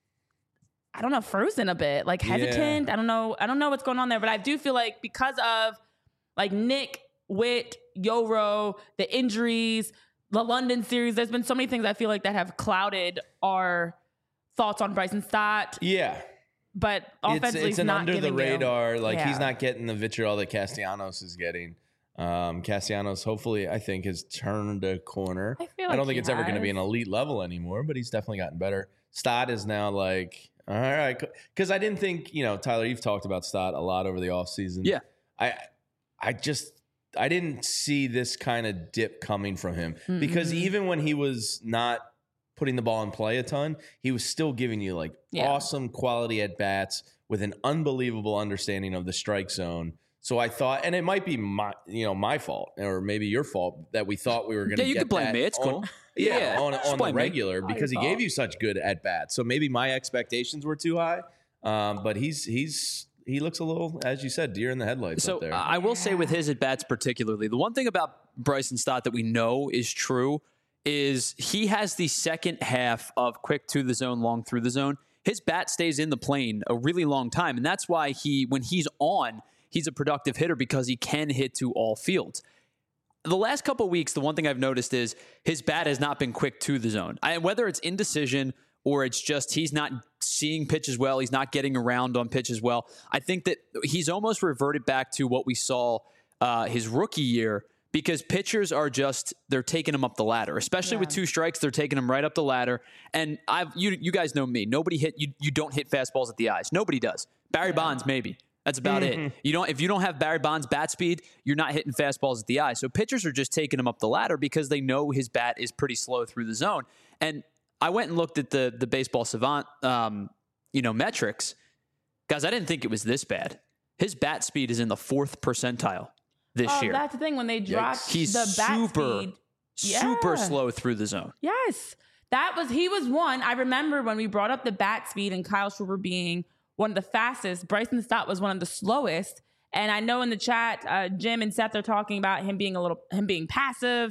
I don't know, frozen a bit, like hesitant. I don't know. I don't know what's going on there, but I do feel like because of like Nick, Witt, Yoro, the injuries, the London series, there's been so many things I feel like that have clouded our thoughts on Bryson Stott. Yeah. But It's, offensively, it's he's an not under the giving you- radar. Like Yeah. he's not getting the vitriol that Castellanos is getting. Um, Castellanos, hopefully, I think has turned a corner. I feel I like don't think he it's ever going to be has. an elite level anymore, but he's definitely gotten better. Stott is now like, all right, because I didn't think, you know, Tyler, you've talked about Stott a lot over the offseason. Yeah. I, I just, I didn't see this kind of dip coming from him because even when he was not putting the ball in play a ton, he was still giving you like Yeah. awesome quality at bats with an unbelievable understanding of the strike zone. So I thought, and it might be my, you know, my fault or maybe your fault that we thought we were going to. Yeah, you get can blame that me. It's on- cool. Yeah, Yeah, on, just on the blame me. regular because he your gave fault. you such good at bats. So maybe my expectations were too high. Um, but he's he's he looks a little, as you said, deer in the headlights So up there. I will say with his at bats particularly, the one thing about Bryson Stott that we know is true is he has the second half of quick to the zone, long through the zone. His bat stays in the plane a really long time, and that's why he, when he's on, he's a productive hitter because he can hit to all fields. The last couple of weeks, the one thing I've noticed is his bat has not been quick to the zone. I, whether it's indecision or it's just he's not seeing pitches well, he's not getting around on pitches well. I think that he's almost reverted back to what we saw uh, his rookie year because pitchers are just, they're taking him up the ladder, especially Yeah. with two strikes. They're taking him right up the ladder. And I've you you guys know me. Nobody hit you. You don't hit fastballs at the eyes. Nobody does. Barry Bonds maybe. That's about it. You don't if you don't have Barry Bonds' bat speed, you're not hitting fastballs at the eye. So pitchers are just taking him up the ladder because they know his bat is pretty slow through the zone. And I went and looked at the the baseball savant, um, you know, metrics. Guys, I didn't think it was this bad. His bat speed is in the fourth percentile this Oh, year. that's the thing when they dropped He's the bat super, speed. super Yeah. slow through the zone. Yes. That was, he was one. I remember when we brought up the bat speed and Kyle Schwarber being one of the fastest, Bryson Stott was one of the slowest. And I know in the chat, uh, Jim and Seth are talking about him being a little, him being passive.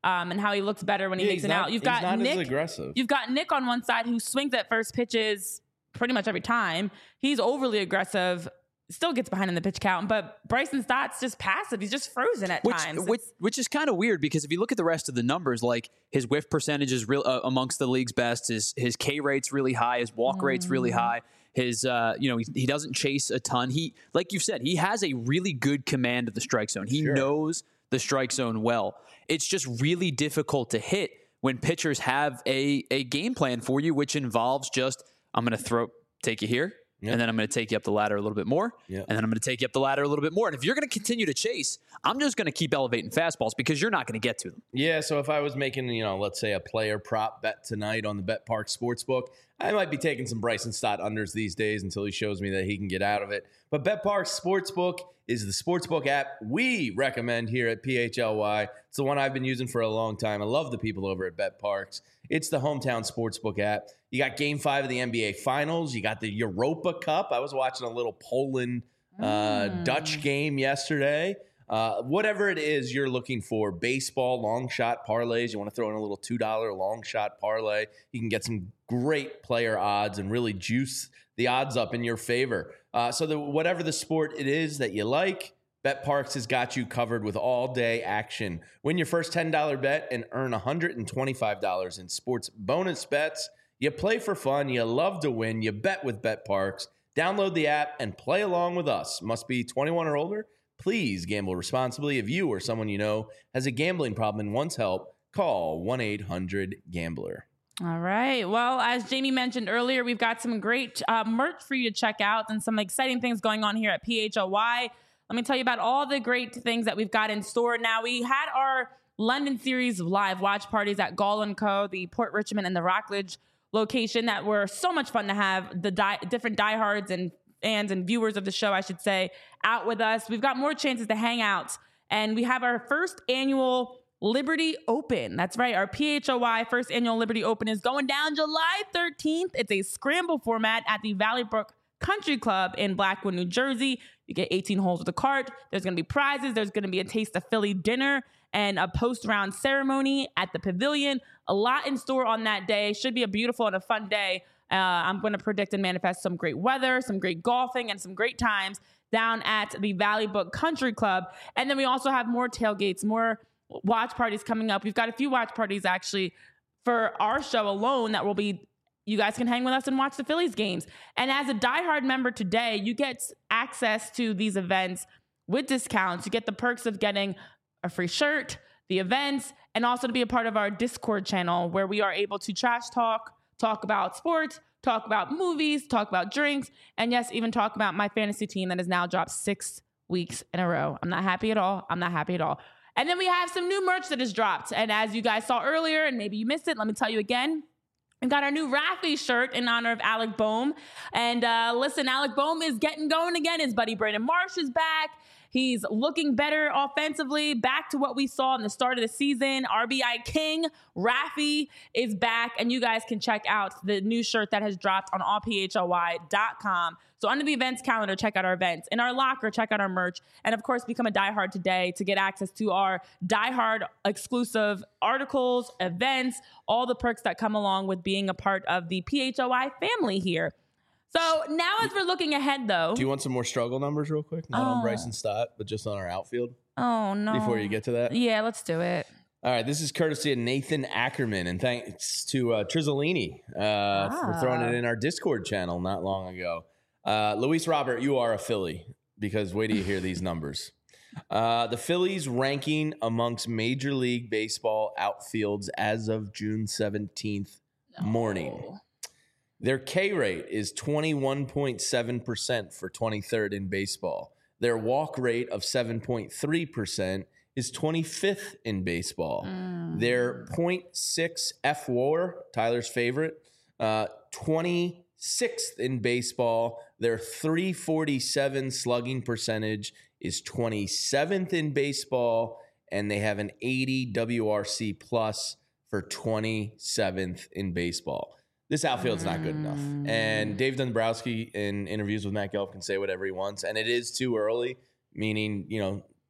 um, and how he looks better when he Yeah, makes he's an not- out. You've he's got not as Nick. aggressive. You've got Nick on one side who swings at first pitches pretty much every time. He's overly aggressive. Still gets behind in the pitch count, but Bryson Stott's just passive. He's just frozen at Which, times. which, which is kind of weird because if you look at the rest of the numbers, like his whiff percentage is real uh, amongst the league's best. His his K rate's really high. His walk mm. rate's really high. His uh, you know he, he doesn't chase a ton. He like you said, he has a really good command of the strike zone. He sure. knows the strike zone well. It's just really difficult to hit when pitchers have a a game plan for you, which involves just I'm going to throw take you here. Yep. And then I'm going to take you up the ladder a little bit more. Yep. And then I'm going to take you up the ladder a little bit more. And if you're going to continue to chase, I'm just going to keep elevating fastballs because you're not going to get to them. Yeah, so if I was making, you know, let's say a player prop bet tonight on the BetPark Sportsbook, I might be taking some Bryson Stott unders these days until he shows me that he can get out of it. But BetPark Sportsbook is the sportsbook app we recommend here at P H L Y. It's the one I've been using for a long time. I love the people over at BetParks. It's the hometown sportsbook app. You got game five of the N B A Finals. You got the Europa Cup. I was watching a little Poland uh, mm. Dutch game yesterday. Uh, whatever it is you're looking for, baseball, long shot parlays, you want to throw in a little two dollar long shot parlay, you can get some great player odds and really juice the odds up in your favor. Uh, so that whatever the sport it is that you like, BetParks has got you covered with all-day action. Win your first ten dollar bet and earn one hundred twenty-five dollars in sports bonus bets. You play for fun. You love to win. You bet with BetParks. Download the app and play along with us. Must be twenty-one or older. Please gamble responsibly. If you or someone you know has a gambling problem and wants help, call one eight hundred gambler. All right. Well, as Jamie mentioned earlier, we've got some great uh, merch for you to check out and some exciting things going on here at P H L Y. Let me tell you about all the great things that we've got in store. Now, we had our London Series live watch parties at Gall and Co., the Port Richmond and the Rockledge location that were so much fun to have the die, different diehards and fans and viewers of the show, I should say, out with us. We've got more chances to hang out. And we have our first annual Liberty Open. That's right. Our P H O Y first annual Liberty Open is going down July thirteenth. It's a scramble format at the Valley Brook Country Club in Blackwood, New Jersey. You get eighteen holes with a cart. There's going to be prizes. There's going to be a Taste of Philly dinner and a post-round ceremony at the pavilion. A lot in store on that day. Should be a beautiful and a fun day. Uh, I'm going to predict and manifest some great weather, some great golfing, and some great times down at the Valley Brook Country Club. And then we also have more tailgates, more watch parties coming up. We've got a few watch parties actually for our show alone that will be, you guys can hang with us and watch the Phillies games. And as a diehard member today, you get access to these events with discounts. You get the perks of getting a free shirt, the events, and also to be a part of our Discord channel where we are able to trash talk, talk about sports, talk about movies, talk about drinks, and yes, even talk about my fantasy team that has now dropped six weeks in a row. I'm not happy at all. I'm not happy at all. And then we have some new merch that has dropped. And as you guys saw earlier, and maybe you missed it, let me tell you again. We've got our new Raffy shirt in honor of Alec Boehm. And uh, listen, Alec Boehm is getting going again. His buddy Brandon Marsh is back. He's looking better offensively, back to what we saw in the start of the season. R B I King, Raffy is back, and you guys can check out the new shirt that has dropped on all P H L Y dot com. So under the events calendar, check out our events. In our locker, check out our merch. And of course, become a diehard today to get access to our diehard exclusive articles, events, all the perks that come along with being a part of the P H L Y family here. So now as we're looking ahead, though. Do you want some more struggle numbers real quick? Not oh. on Bryson Stott, but just on our outfield? Oh, no. Before you get to that? Yeah, let's do it. All right, this is courtesy of Nathan Ackerman, and thanks to uh, Trizzolini uh, ah. for throwing it in our Discord channel not long ago. Uh, Luis Robert, you are a Philly, because wait till you hear these numbers. Uh, the Phillies ranking amongst Major League Baseball outfields as of June seventeenth no. morning. Their K rate is twenty-one point seven percent for twenty-third in baseball. Their walk rate of seven point three percent is twenty-fifth in baseball. Mm. Their point six F W A R, Tyler's favorite, uh, twenty-sixth in baseball. Their three forty-seven slugging percentage is twenty-seventh in baseball, and they have an eighty W R C plus for twenty-seventh in baseball. This outfield's not good enough. And Dave Dombrowski in interviews with Matt Gelb can say whatever he wants. And it is too early, meaning, you know,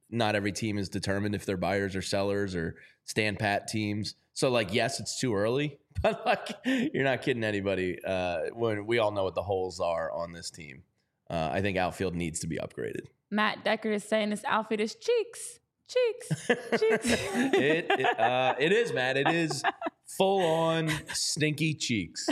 not every team is determined if they're buyers or sellers or stand pat teams. So, like, yes, it's too early, but, like, you're not kidding anybody uh, when we all know what the holes are on this team. Uh, I think outfield needs to be upgraded. Matt Decker is saying this outfit is cheeks. Cheeks. Cheeks. it it, uh, it is, Matt. It is full-on stinky cheeks.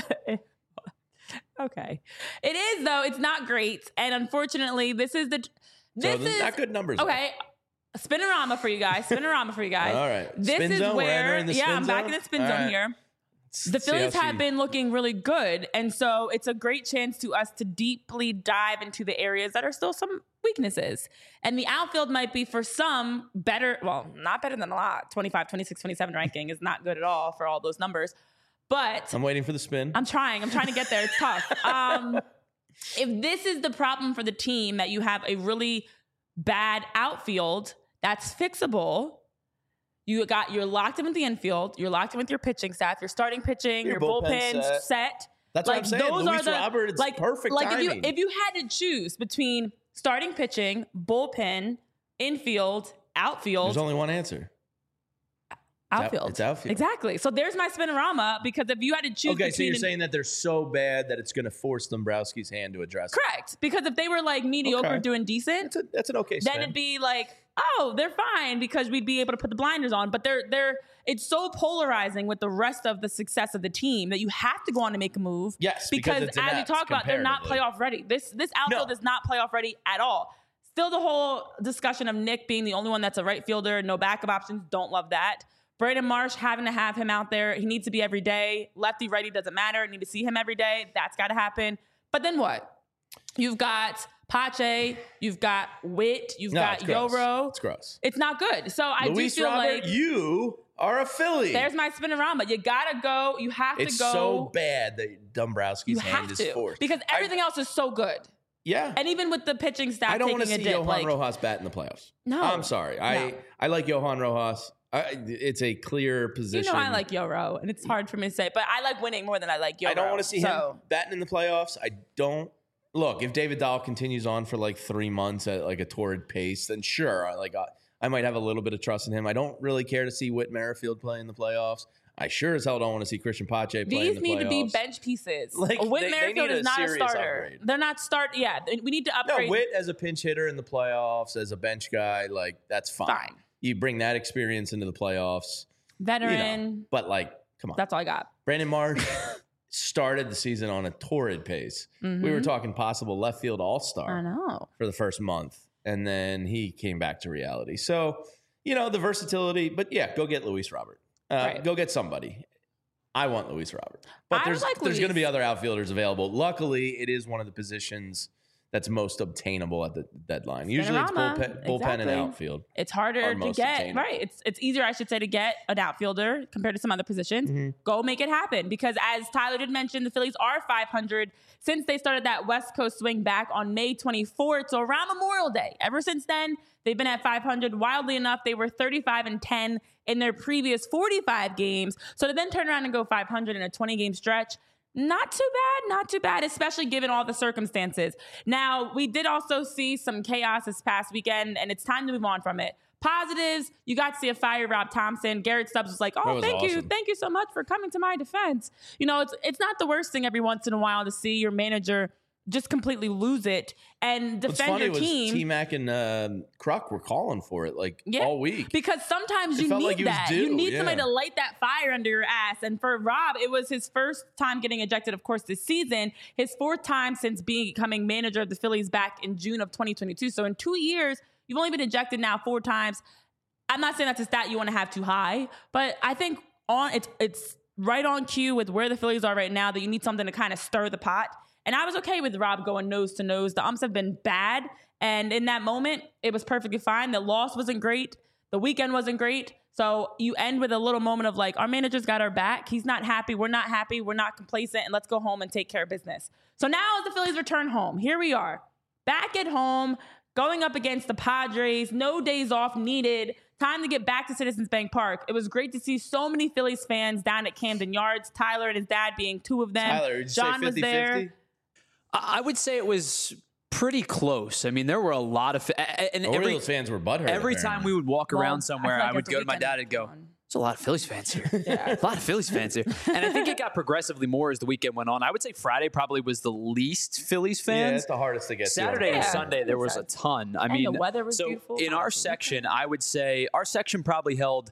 Okay. It is, though. It's not great. And unfortunately, this is the... This so is not good numbers. Okay. Spinorama for you guys. Spinorama for you guys. All right. This spin is zone? where... In the yeah, spin I'm zone? back in the spin All zone right. here. The Let's see Phillies how have she- been looking really good. And so it's a great chance to us to deeply dive into the areas that are still some weaknesses. And the outfield might be for some better, well, not better than a lot. twenty-five, twenty-six, twenty-seven ranking is not good at all for all those numbers. But I'm waiting for the spin. I'm trying. I'm trying to get there. It's tough. Um, if this is the problem for the team, that you have a really bad outfield that's fixable, you got you're locked in with the infield, you're locked in with your pitching staff, your starting pitching, Your your, bullpen bullpen set. set. That's what I'm saying. Luis Robert, it's like perfect like if you timing. if you had to choose between starting pitching, bullpen, infield, outfield, There's only one answer. out- outfield. it's outfield. Exactly. So there's my spinorama, because if you had to choose Okay, so between you're an- saying that they're so bad that it's going to force Dombrowski's hand to address it. correct, because if they were like mediocre Okay. doing decent, That's, a, that's an okay then spin. it'd be like, oh, they're fine, because we'd be able to put the blinders on. But they're they're it's so polarizing with the rest of the success of the team that you have to go on to make a move. Yes, because because it's as we inept talk about, they're not comparatively. playoff ready. This this outfield No. is not playoff ready at all. Still, the whole discussion of Nick being the only one that's a right fielder, no backup options. Don't love that. Brandon Marsh, having to have him out there. He needs to be every day. Lefty, righty, doesn't matter. Need to see him every day. That's got to happen. But then what? You've got Pache. You've got Witt. You've No, got it's gross. Yoro. It's gross. It's not good. So I Luis do feel Robert, like you are a Philly. there's my spinorama. You gotta go. You have it's to go. so bad that Dombrowski's you hand have is to forced. because I- everything else is so good. yeah. And even with the pitching staff I don't taking want to a see dip, Johan like Rojas bat in the playoffs. No. I'm sorry. I, No. I like Johan Rojas. I, it's a clear you position. know, I like Yoro, and it's hard for me to say, but I like winning more than I like Yoro. I don't want to see so. him batting in the playoffs. I don't. Look, if David Dahl continues on for like three months at like a torrid pace, then sure, I- like I, I might have a little bit of trust in him. I don't really care to see Whit Merrifield play in the playoffs. I sure as hell don't want to see Christian Pache play in the These playoffs. need to be bench pieces. Like, Whit they- they Merrifield need a is not a serious starter. upgrade. They're not start. Yeah, we need to No, upgrade. Whit as a pinch hitter in the playoffs, as a bench guy, like that's fine. Fine. You bring that experience into the playoffs, you Veteran. know. But like, come on, That's all I got. Brandon Marsh started the season on a torrid pace. We were talking possible left field all Mm-hmm. I star know. for the first month, and then he came back to reality. So, you know, the versatility. But yeah, go get Luis Robert. Uh, Right. Go get somebody. I want Luis Robert, but I there's like there's going to Luis. be other outfielders available. Luckily, it is one of the positions that's most obtainable at the deadline. Usually, it's Spinorama. bullpen, bullpen and Exactly. outfield. It's harder Are to most get obtainable. right. It's it's easier, I should say, to get an outfielder compared to some other positions. Mm-hmm. Go make it happen, because as Tyler did mention, the Phillies are five hundred since they started that West Coast swing back on May twenty-fourth, so around Memorial Day. Ever since then, they've been at five hundred. Wildly enough, they were thirty-five and ten in their previous forty-five games. So to then turn around and go five hundred in a twenty game stretch, not too bad, not too bad, especially given all the circumstances. Now, we did also see some chaos this past weekend, and it's time to move on from it. Positives, you got to see a fire Rob Thompson. Garrett Stubbs was like, That oh, was thank you. awesome. Thank you so much for coming to my defense. You know, it's it's not the worst thing every once in a while to see your manager just completely lose it and What's defend funny your was team. T-Mac and uh, Kruk were calling for it like Yeah, all week. Because sometimes It you felt need like it was that. due, You need somebody yeah. to light that fire under your ass. And for Rob, it was his first time getting ejected, of course, this season. His fourth time since becoming manager of the Phillies back in June of twenty twenty-two. So in two years, you've only been ejected now four times. I'm not saying that's a stat you want to have too high, but I think on it's it's right on cue with where the Phillies are right now that you need something to kind of stir the pot. And I was okay with Rob going nose to nose. The umps have been bad. And in that moment, it was perfectly fine. The loss wasn't great. The weekend wasn't great. So you end with a little moment of like, our manager's got our back. He's not happy. We're not happy. We're not complacent. And let's go home and take care of business. So now as the Phillies return home, here we are, back at home, going up against the Padres. No days off needed. Time to get back to Citizens Bank Park. It was great to see so many Phillies fans down at Camden Yards. Tyler and his dad being two of them. Tyler, did you John say was fifty there. fifty? I I would say it was pretty close. I mean, there were a lot of and Orioles every fans were butthurt. every apparently. time we would walk Well, around somewhere, I, I, feel like would that's go a to my weekend dad and go, one. "There's a lot of Phillies fans here. A lot of Phillies fans here." And I think it got progressively more as the weekend went on. I would say Friday probably was the least Phillies Yeah, fans. it's the hardest to get Saturday to. and Yeah. Sunday, there was a ton. I And mean, the weather was so beautiful. in our section, I would say our section probably held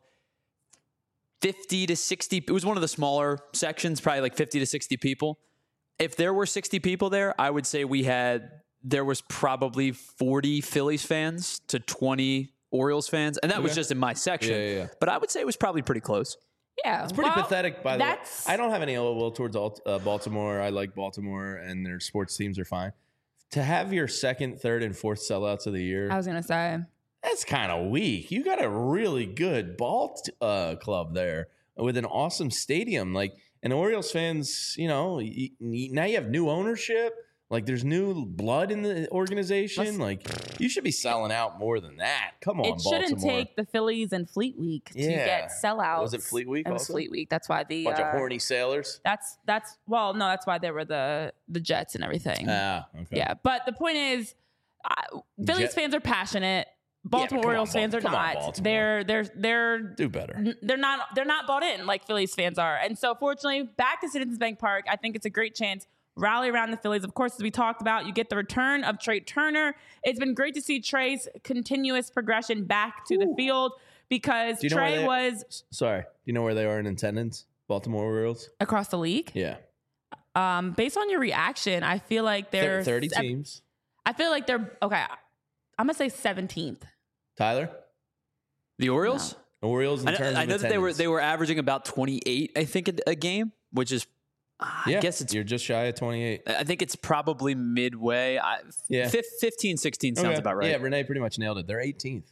fifty to sixty. It was one of the smaller sections, probably like fifty to sixty people. If there were sixty people there, I would say we had, there was probably forty Phillies fans to twenty Orioles fans. And that was Okay. just in my section. Yeah, yeah, yeah. But I would say it was probably pretty close. Yeah, It's pretty well, pathetic, by the way. that's- I don't have any ill will towards Alt- uh, Baltimore. I like Baltimore, and their sports teams are fine. To have your second, third, and fourth sellouts of the year, I was gonna say. that's kind of weak. You got a really good ball t- uh, club there with an awesome stadium. Like, and Orioles fans, you know, y- y- now you have new ownership. Like, there's new blood in the organization. Let's- like, you should be selling out more than that. Come on, It shouldn't Baltimore. take the Phillies and Fleet Week to Yeah. get sellouts. Was it Fleet Week It was also? Fleet Week. That's why the Bunch uh, of horny sailors. That's that's well, no, that's why there were the the Jets and everything. Ah, okay. Yeah, but the point is, uh, Phillies Jet- fans are passionate. Baltimore come on, Orioles Bal- fans are come on, not. Baltimore. They're they're they're Do better. n- they're not they're not bought in like Phillies fans are. And so fortunately, back to Citizens Bank Park, I think it's a great chance. Rally around the Phillies. Of course, as we talked about, you get the return of Trey Turner. It's been great to see Trey's continuous progression back to the field because Do you know where Trey they- was Sorry. Do you know where they are in attendance? Baltimore Orioles? across the league. Yeah. Um, based on your reaction, I feel like Thir- they're thirty sev- teams. I feel like they're okay. I'm gonna say seventeenth. Tyler? The Orioles? Orioles in I, terms I of know that they were attendance. they were averaging about twenty-eight, I think, a, a game, which is, Yeah, I guess it's, you're just shy of twenty-eight. I think it's probably midway. I, Yeah. fif- fifteen, sixteen sounds Okay. about right. Yeah, Renee pretty much nailed it. They're eighteenth.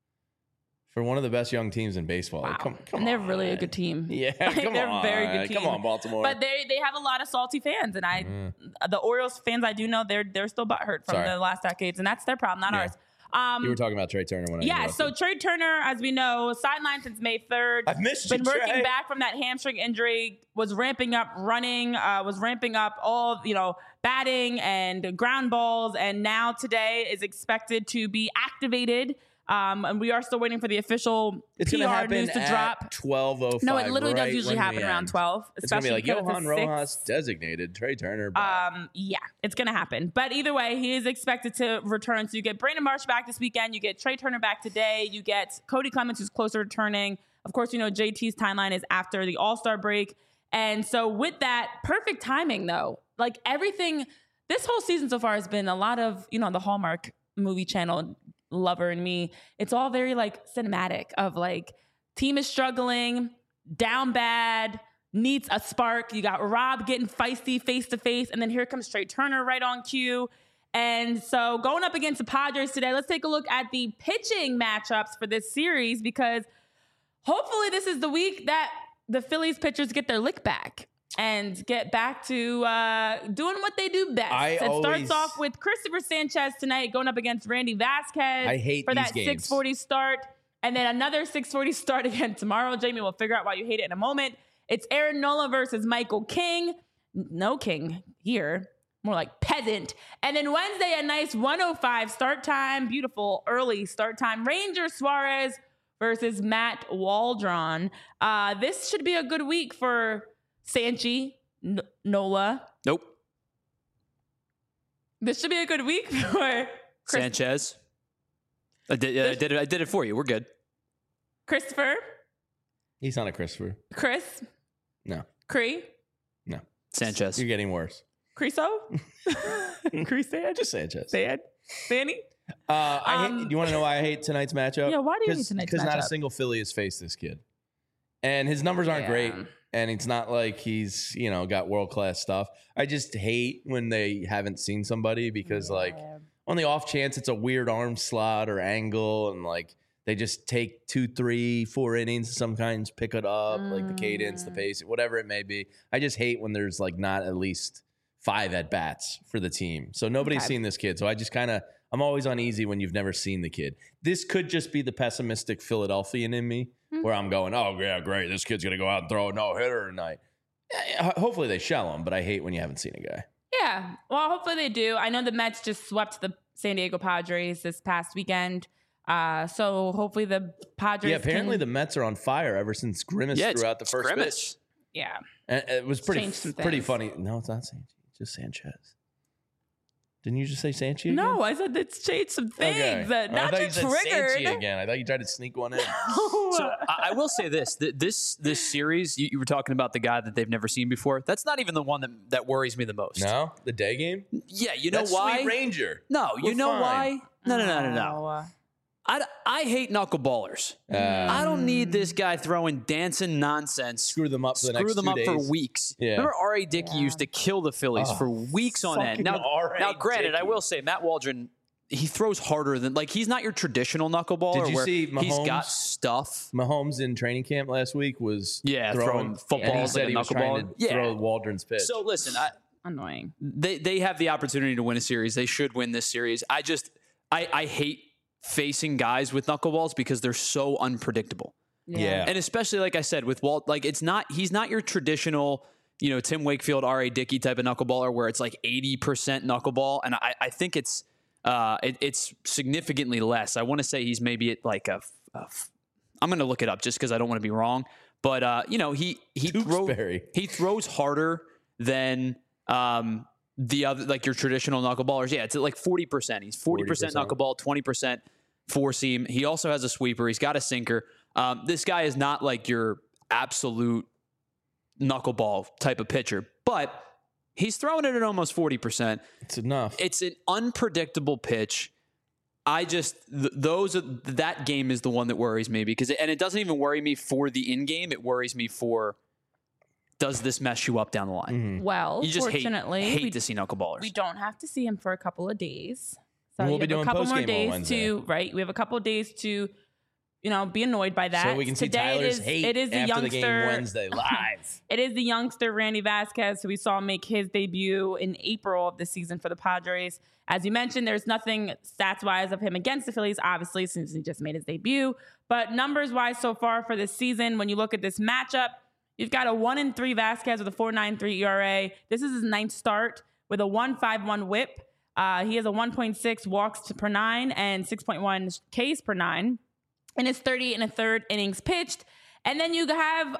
For one of the best young teams in baseball. Wow, Like, come, come and they're on, really a man. good team. Yeah, Like, come they're on. a very good Come team. on, Baltimore. But they they have a lot of salty fans, and I Mm. the Orioles fans I do know they're they're still butthurt from Sorry. the last decades, and that's their problem, not Yeah. ours. Um, you were talking about Trey Turner when I yeah, interrupted. so Trey Turner, as we know, sidelined since May third. I've missed Been you, working Trey. back from that hamstring injury. Was ramping up running. Uh, was ramping up all you know batting and ground balls, and now today is expected to be activated. Um, and we are still waiting for the official It's P going to R happen news to at drop. twelve oh five. No, it literally right does usually when happen we around end. twelve. It's going to be like because it's Johan a Rojas six. designated Trey Turner. back. Um, yeah, it's gonna happen. But either way, he is expected to return. So you get Brandon Marsh back this weekend. You get Trey Turner back today. You get Cody Clemens, who's closer to returning. Of course, you know J T's timeline is after the All Star break, and so with that, perfect timing though. Like everything, this whole season so far has been a lot of you know the Hallmark movie channel lover and me. It's all very like cinematic of like team is struggling, down bad, needs a spark. You got Rob getting feisty face to face, and then here comes Trey Turner right on cue. And so going up against the Padres today, let's take a look at the pitching matchups for this series because hopefully this is the week that the Phillies pitchers get their lick back and get back to uh, doing what they do best. I it always- starts off with Christopher Sanchez tonight going up against Randy Vasquez I hate for these that games. six forty start. And then another six forty start again tomorrow. Jamie will figure out why you hate it in a moment. It's Aaron Nola versus Michael King. No King here. More like peasant. And then Wednesday, a nice one oh five start time. Beautiful early start time. Ranger Suarez versus Matt Waldron. Uh, this should be a good week for Sanchi, N- Nola. Nope. This should be a good week for Chris- Sanchez. I did, I did it. I did it for you. We're good. Christopher, He's not a Christopher. Chris, No. Cree, No. Sanchez. You're getting worse. Creso, Cresan, Just Sanchez. Sad, Sandy. Uh, I Um, hate, you want to know why I hate tonight's matchup? Yeah, why do you hate tonight's Because not a matchup? single Philly has faced this kid. And his numbers aren't Yeah. great. And it's not like he's, you know, got world-class stuff. I just hate when they haven't seen somebody because, like, on the off chance it's a weird arm slot or angle and, like, they just take two, three, four innings, sometimes pick it up, like the cadence, the Mm. pace, whatever it may be. I just hate when there's, like, not at least five at-bats for the team. So nobody's Okay. seen this kid. So I just kind of, I'm always uneasy when you've never seen the kid. This could just be the pessimistic Philadelphian in me Hmm. where I'm going, oh, yeah, great. This kid's going to go out and throw a no-hitter tonight. Yeah, ho- hopefully they shell him, but I hate when you haven't seen a guy. Yeah, Yeah. Well, hopefully they do. I know the Mets just swept the San Diego Padres this past weekend. Uh, so hopefully the Padres. Yeah, apparently can, the Mets are on fire ever since Grimace Yeah, threw out the first Grimace. pitch. Yeah. And it was pretty changed some pretty things. funny. No, it's not Sanchez. It's just Sanchez. Didn't you just say Sanchez? No, I said it's changed some things. Okay. That I not thought you just said triggered. Sanchez again. I thought you tried to sneak one in. So I, I will say this: th- this this series, you, you were talking about the guy that they've never seen before. That's not even the one that, that worries me the most. No, the day game. Yeah, you know That's why? Sweet Ranger. No, you We're know fine. why? No, no, no, no, no. Oh. I, I hate knuckleballers. Uh, I don't need this guy throwing dancing nonsense. Screw them up for the Screw next them two up days. for weeks. Yeah. Remember R A. Dickey Yeah. used to kill the Phillies Oh, for weeks on end. fucking Now, R A. now, granted, I Dickey. will say Matt Waldron, he throws harder than like he's not your traditional knuckleballer. Did you where see he's got Mahomes? stuff. Mahomes in training camp last week was Yeah, throwing, throwing footballs and he like said a he was trying knuckleballer. to Yeah. throw Waldron's pitch. So listen, I, Annoying. they they have the opportunity to win a series. They should win this series. I just I I hate facing guys with knuckleballs because they're so unpredictable. Yeah. And especially like I said with Walt, like it's not he's not your traditional, you know, Tim Wakefield, R A. Dickey type of knuckleballer where it's like eighty percent knuckleball. And I, I think it's uh it, it's significantly less. I want to say he's maybe at like a, a I'm going to look it up just because I don't want to be wrong. But uh, you know, he he throws Tewksbury. he throws harder than um the other like your traditional knuckleballers. Yeah, it's at like forty percent. He's forty percent forty percent. knuckleball, twenty percent four seam. He also has a sweeper. He's got a sinker. Um, this guy is not like your absolute knuckleball type of pitcher, but he's throwing it at almost forty percent. It's enough. It's an unpredictable pitch. I just th- those are, that game is the one that worries me because it, and it doesn't even worry me for the in game. It worries me for does this mess you up down the line? Mhm. Well, You just hate, fortunately, hate we, to see knuckleballers. we don't have to see him for a couple of days. So We'll you be have doing a couple more postgame on days Wednesday. to right. We have a couple of days to, you know, be annoyed by that. So we can see Today Tyler's it is, hate it is the after youngster, the game Wednesday live. It is the youngster Randy Vasquez, who we saw make his debut in April of the season for the Padres. As you mentioned, there's nothing stats-wise of him against the Phillies, obviously, since he just made his debut. But numbers-wise so far for this season, when you look at this matchup, you've got a one and three Vasquez with a four point nine three E R A. This is his ninth start with a one point five one whip. Uh, he has a one point six walks to per nine and six point one Ks per nine. And it's thirty and a third innings pitched. And then you have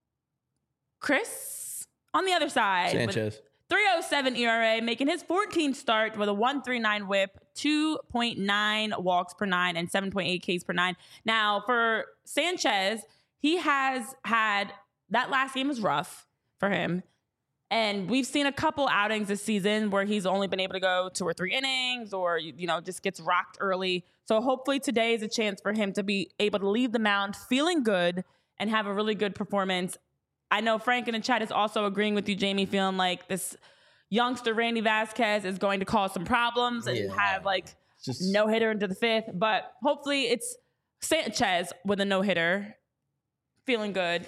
Chris on the other side. with Sanchez. three oh seven E R A, making his fourteenth start with a one point three nine whip, two point nine walks per nine, and seven point eight Ks per nine. Now, for Sanchez, he has had that last game was rough for him. And we've seen a couple outings this season where he's only been able to go two or three innings or, you know, just gets rocked early. So hopefully today is a chance for him to be able to leave the mound feeling good and have a really good performance. I know Frank in the chat is also agreeing with you, Jamie, feeling like this youngster Randy Vasquez is going to cause some problems and Yeah. have like Just no hitter into the fifth. But hopefully it's Sanchez with a no hitter feeling good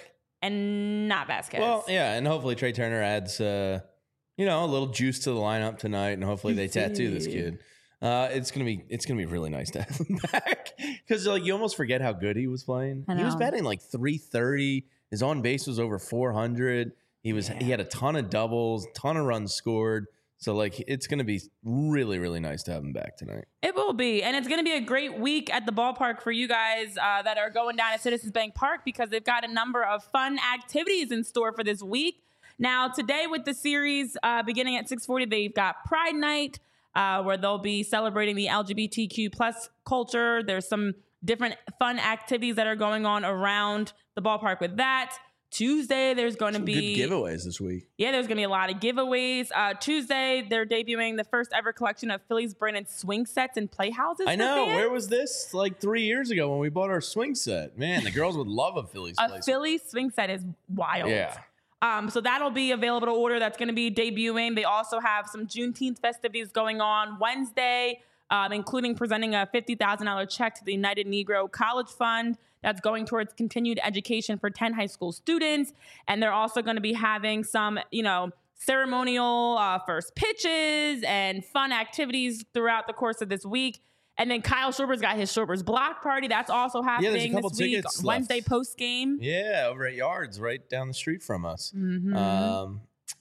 and not Vasquez. Well, yeah, and hopefully Trey Turner adds, uh, you know, a little juice to the lineup tonight, and hopefully they tattoo this kid. Uh, it's gonna be it's gonna be really nice to have him back because like you almost forget how good he was playing. I He was know. batting like three thirty. His on base was over four hundred. He was he had a ton of doubles, ton of runs scored. So like it's gonna be really really nice to have him back tonight. It will be. And it's going to be a great week at the ballpark for you guys uh, that are going down at Citizens Bank Park because they've got a number of fun activities in store for this week. Now, today with the series uh, beginning at six forty, they've got Pride Night uh, where they'll be celebrating the L G B T Q plus culture. There's some different fun activities that are going on around the ballpark with that. Tuesday, there's going to Some be good giveaways this week. Yeah, there's going to be a lot of giveaways. Uh, Tuesday, they're debuting the first ever collection of Phillies branded swing sets and playhouses. I for know. fans. Where was this like three years ago when we bought our swing set? Man, the girls would love a Phillies A place. Philly swing set is wild. Yeah. Um, so that'll be available to order. That's going to be debuting. They also have some Juneteenth festivities going on Wednesday, um, including presenting a fifty thousand dollars check to the United Negro College Fund. That's going towards continued education for ten high school students. And they're also going to be having some, you know, ceremonial uh, first pitches and fun activities throughout the course of this week. And then Kyle Schwarber's got his Schwarber's block party. That's also there's a happening couple this week, tickets left. Wednesday post game. Yeah, over at Yards, right down the street from us. Mhm. Um,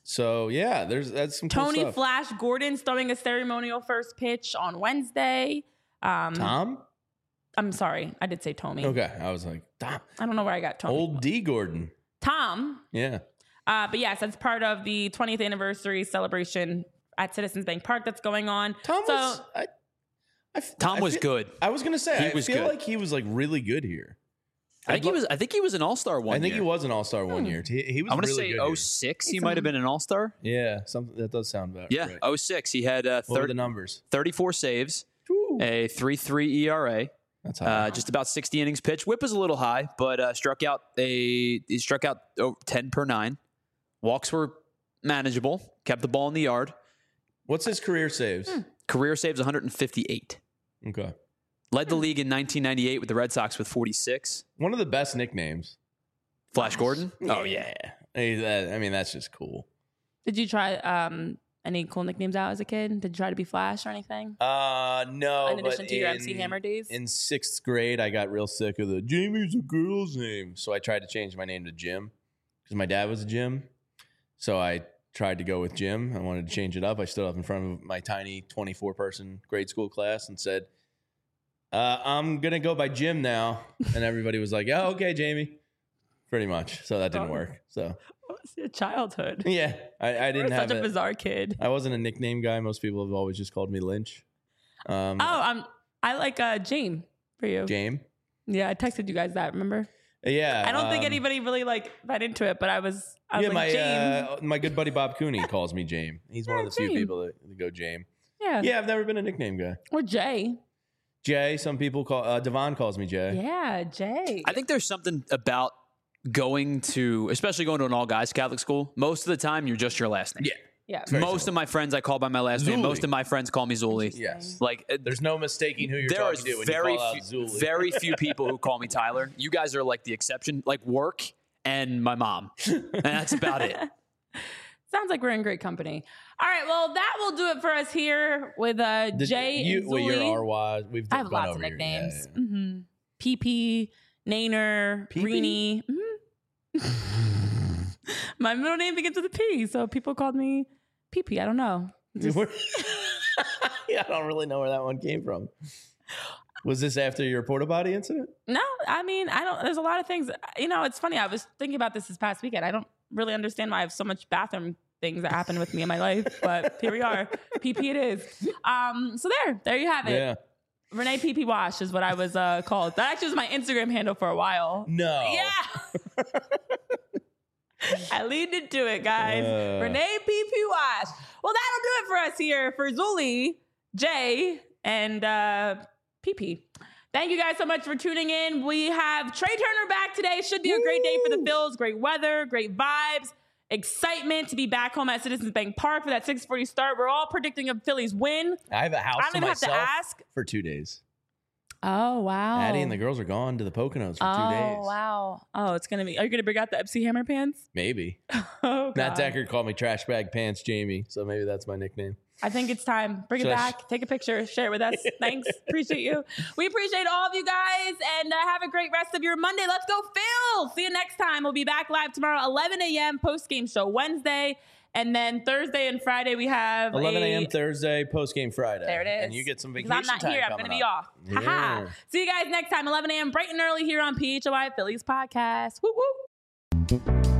So yeah, there's that's some cool Tony stuff. Flash Gordon's throwing a ceremonial first pitch on Wednesday. Um, Tom? I'm sorry, I did say Tommy. Okay, I was like, Tom. I don't know where I got Tommy. Old D Gordon. Tom. Yeah. Uh, but yes, that's part of the twentieth anniversary celebration at Citizens Bank Park that's going on. Tom so, was. I, I, Tom I was feel, good. I was gonna say. He I was feel good. like he was like really good here. I think I'd he lo- was. I think he was an All Star one. I think year. he was an All Star one Hmm. year. He, he was. I want to really say good oh here. six. He He's might have a- been an All Star. Yeah, something that does sound about Yeah, right. oh six. He had uh, What were thir- the numbers? thirty-four saves, Woo. a three three E R A. That's high. Uh, just about sixty innings pitched. Whip was a little high, but uh, struck out a he struck out oh, ten per nine. Walks were manageable. Kept the ball in the yard. What's his career saves? Hmm. Career saves one hundred fifty-eight. Okay. Led the league in nineteen ninety-eight with the Red Sox with forty-six. One of the best nicknames. Flash Gordon. Oh yeah. Hey, that- I mean, that's just cool. did you try um, any cool nicknames out as a kid? Did you try to be Flash or anything? Uh no. In addition but to your in- M C Hammer days? In sixth grade, I got real sick of the Jamie's a girl's name, so I tried to change my name to Jim because my dad was a Jim. So I tried to go with Jim. I wanted to change it up. I stood up in front of my tiny twenty-four person grade school class and said, uh, "I'm gonna go by Jim now," and everybody was like, "Oh, okay, Jamie." Pretty much. So that didn't Oh. work. So What was your childhood? yeah, I, I You didn't were have such a it. bizarre kid. I wasn't a nickname guy. Most people have always just called me Lynch. Um, Oh, um, I like uh, Jane for you. James. Yeah, I texted you guys that. Remember? Yeah. I don't think um, anybody really like got into it, but I was. I was yeah, like my Jane. uh, my good buddy Bob Cooney calls me James. He's one Yeah, of the few Jame. people that, that go James. yeah. Yeah, I've never been a nickname guy. Or Jay. Jay, some people call uh, Devon calls me Jay. Yeah, Jay. I think there's something about going to, especially going to an all guys Catholic school. Most of the time, you're just your last name. Yeah. yeah. Very Most simple. of my friends I call by my last name. Zuli. Most of my friends call me Zuli. Yes. Like uh, There's no mistaking who you're there talking is to when very you call out few, Zuli. very few people who call me Tyler. You guys are like the exception. Like work and my mom, and that's about it. Sounds like we're in great company. All right, well, that will do it for us here with uh, Did Jay you, and well, Zuli. you're R Y. We've I have gone lots of over your- nicknames. yeah, yeah. Mm-hmm. P P, Nainer, P P? Reenie. Mhm. My middle name begins with a P, so people called me P P. I don't know. Just- yeah, I don't really know where that one came from. Was this after your porta potty incident? no, I mean, I don't. There's a lot of things. You know, it's funny. I was thinking about this this past weekend. I don't really understand why I have so much bathroom things that happen with me in my life, but here we are. P P it is. Um, so there, there you have it. Yeah. Renee P P Wash is what I was uh, called. That actually was my Instagram handle for a while. No. Yeah. I leaned into it, guys. Uh. Renee P P Wash. Well, that'll do it for us here for Zuli, Jay, and uh, P P. Thank you guys so much for tuning in. We have Trey Turner back today. Should be a great day for the Phils. Great weather, great vibes, excitement to be back home at Citizens Bank Park for that six forty start. We're all predicting a Phillies win. I have a house I don't to even have to myself ask. for two days. Oh, wow. Addie and the girls are gone to the Poconos for oh, two days. wow. Oh, it's going to be. Are you going to bring out the M C Hammer pants? Maybe. Oh, Matt God. Decker called me Trash Bag Pants Jamie, so maybe that's my nickname. I think it's time. Bring Should it I back. Take a picture. Share it with us. Thanks. Appreciate you. We appreciate all of you guys, and uh, have a great rest of your Monday. Let's go, Phil. See you next time. We'll be back live tomorrow, eleven a.m. post-game show Wednesday. And then Thursday and Friday, we have eleven a.m. a- Thursday, post game Friday. There it is. And you get some Because vacation I'm not time here. I'm coming going to be up. off. Haha. Yeah. See you guys next time, eleven a.m. bright and early here on P H O I Phillies Podcast. Woo woo.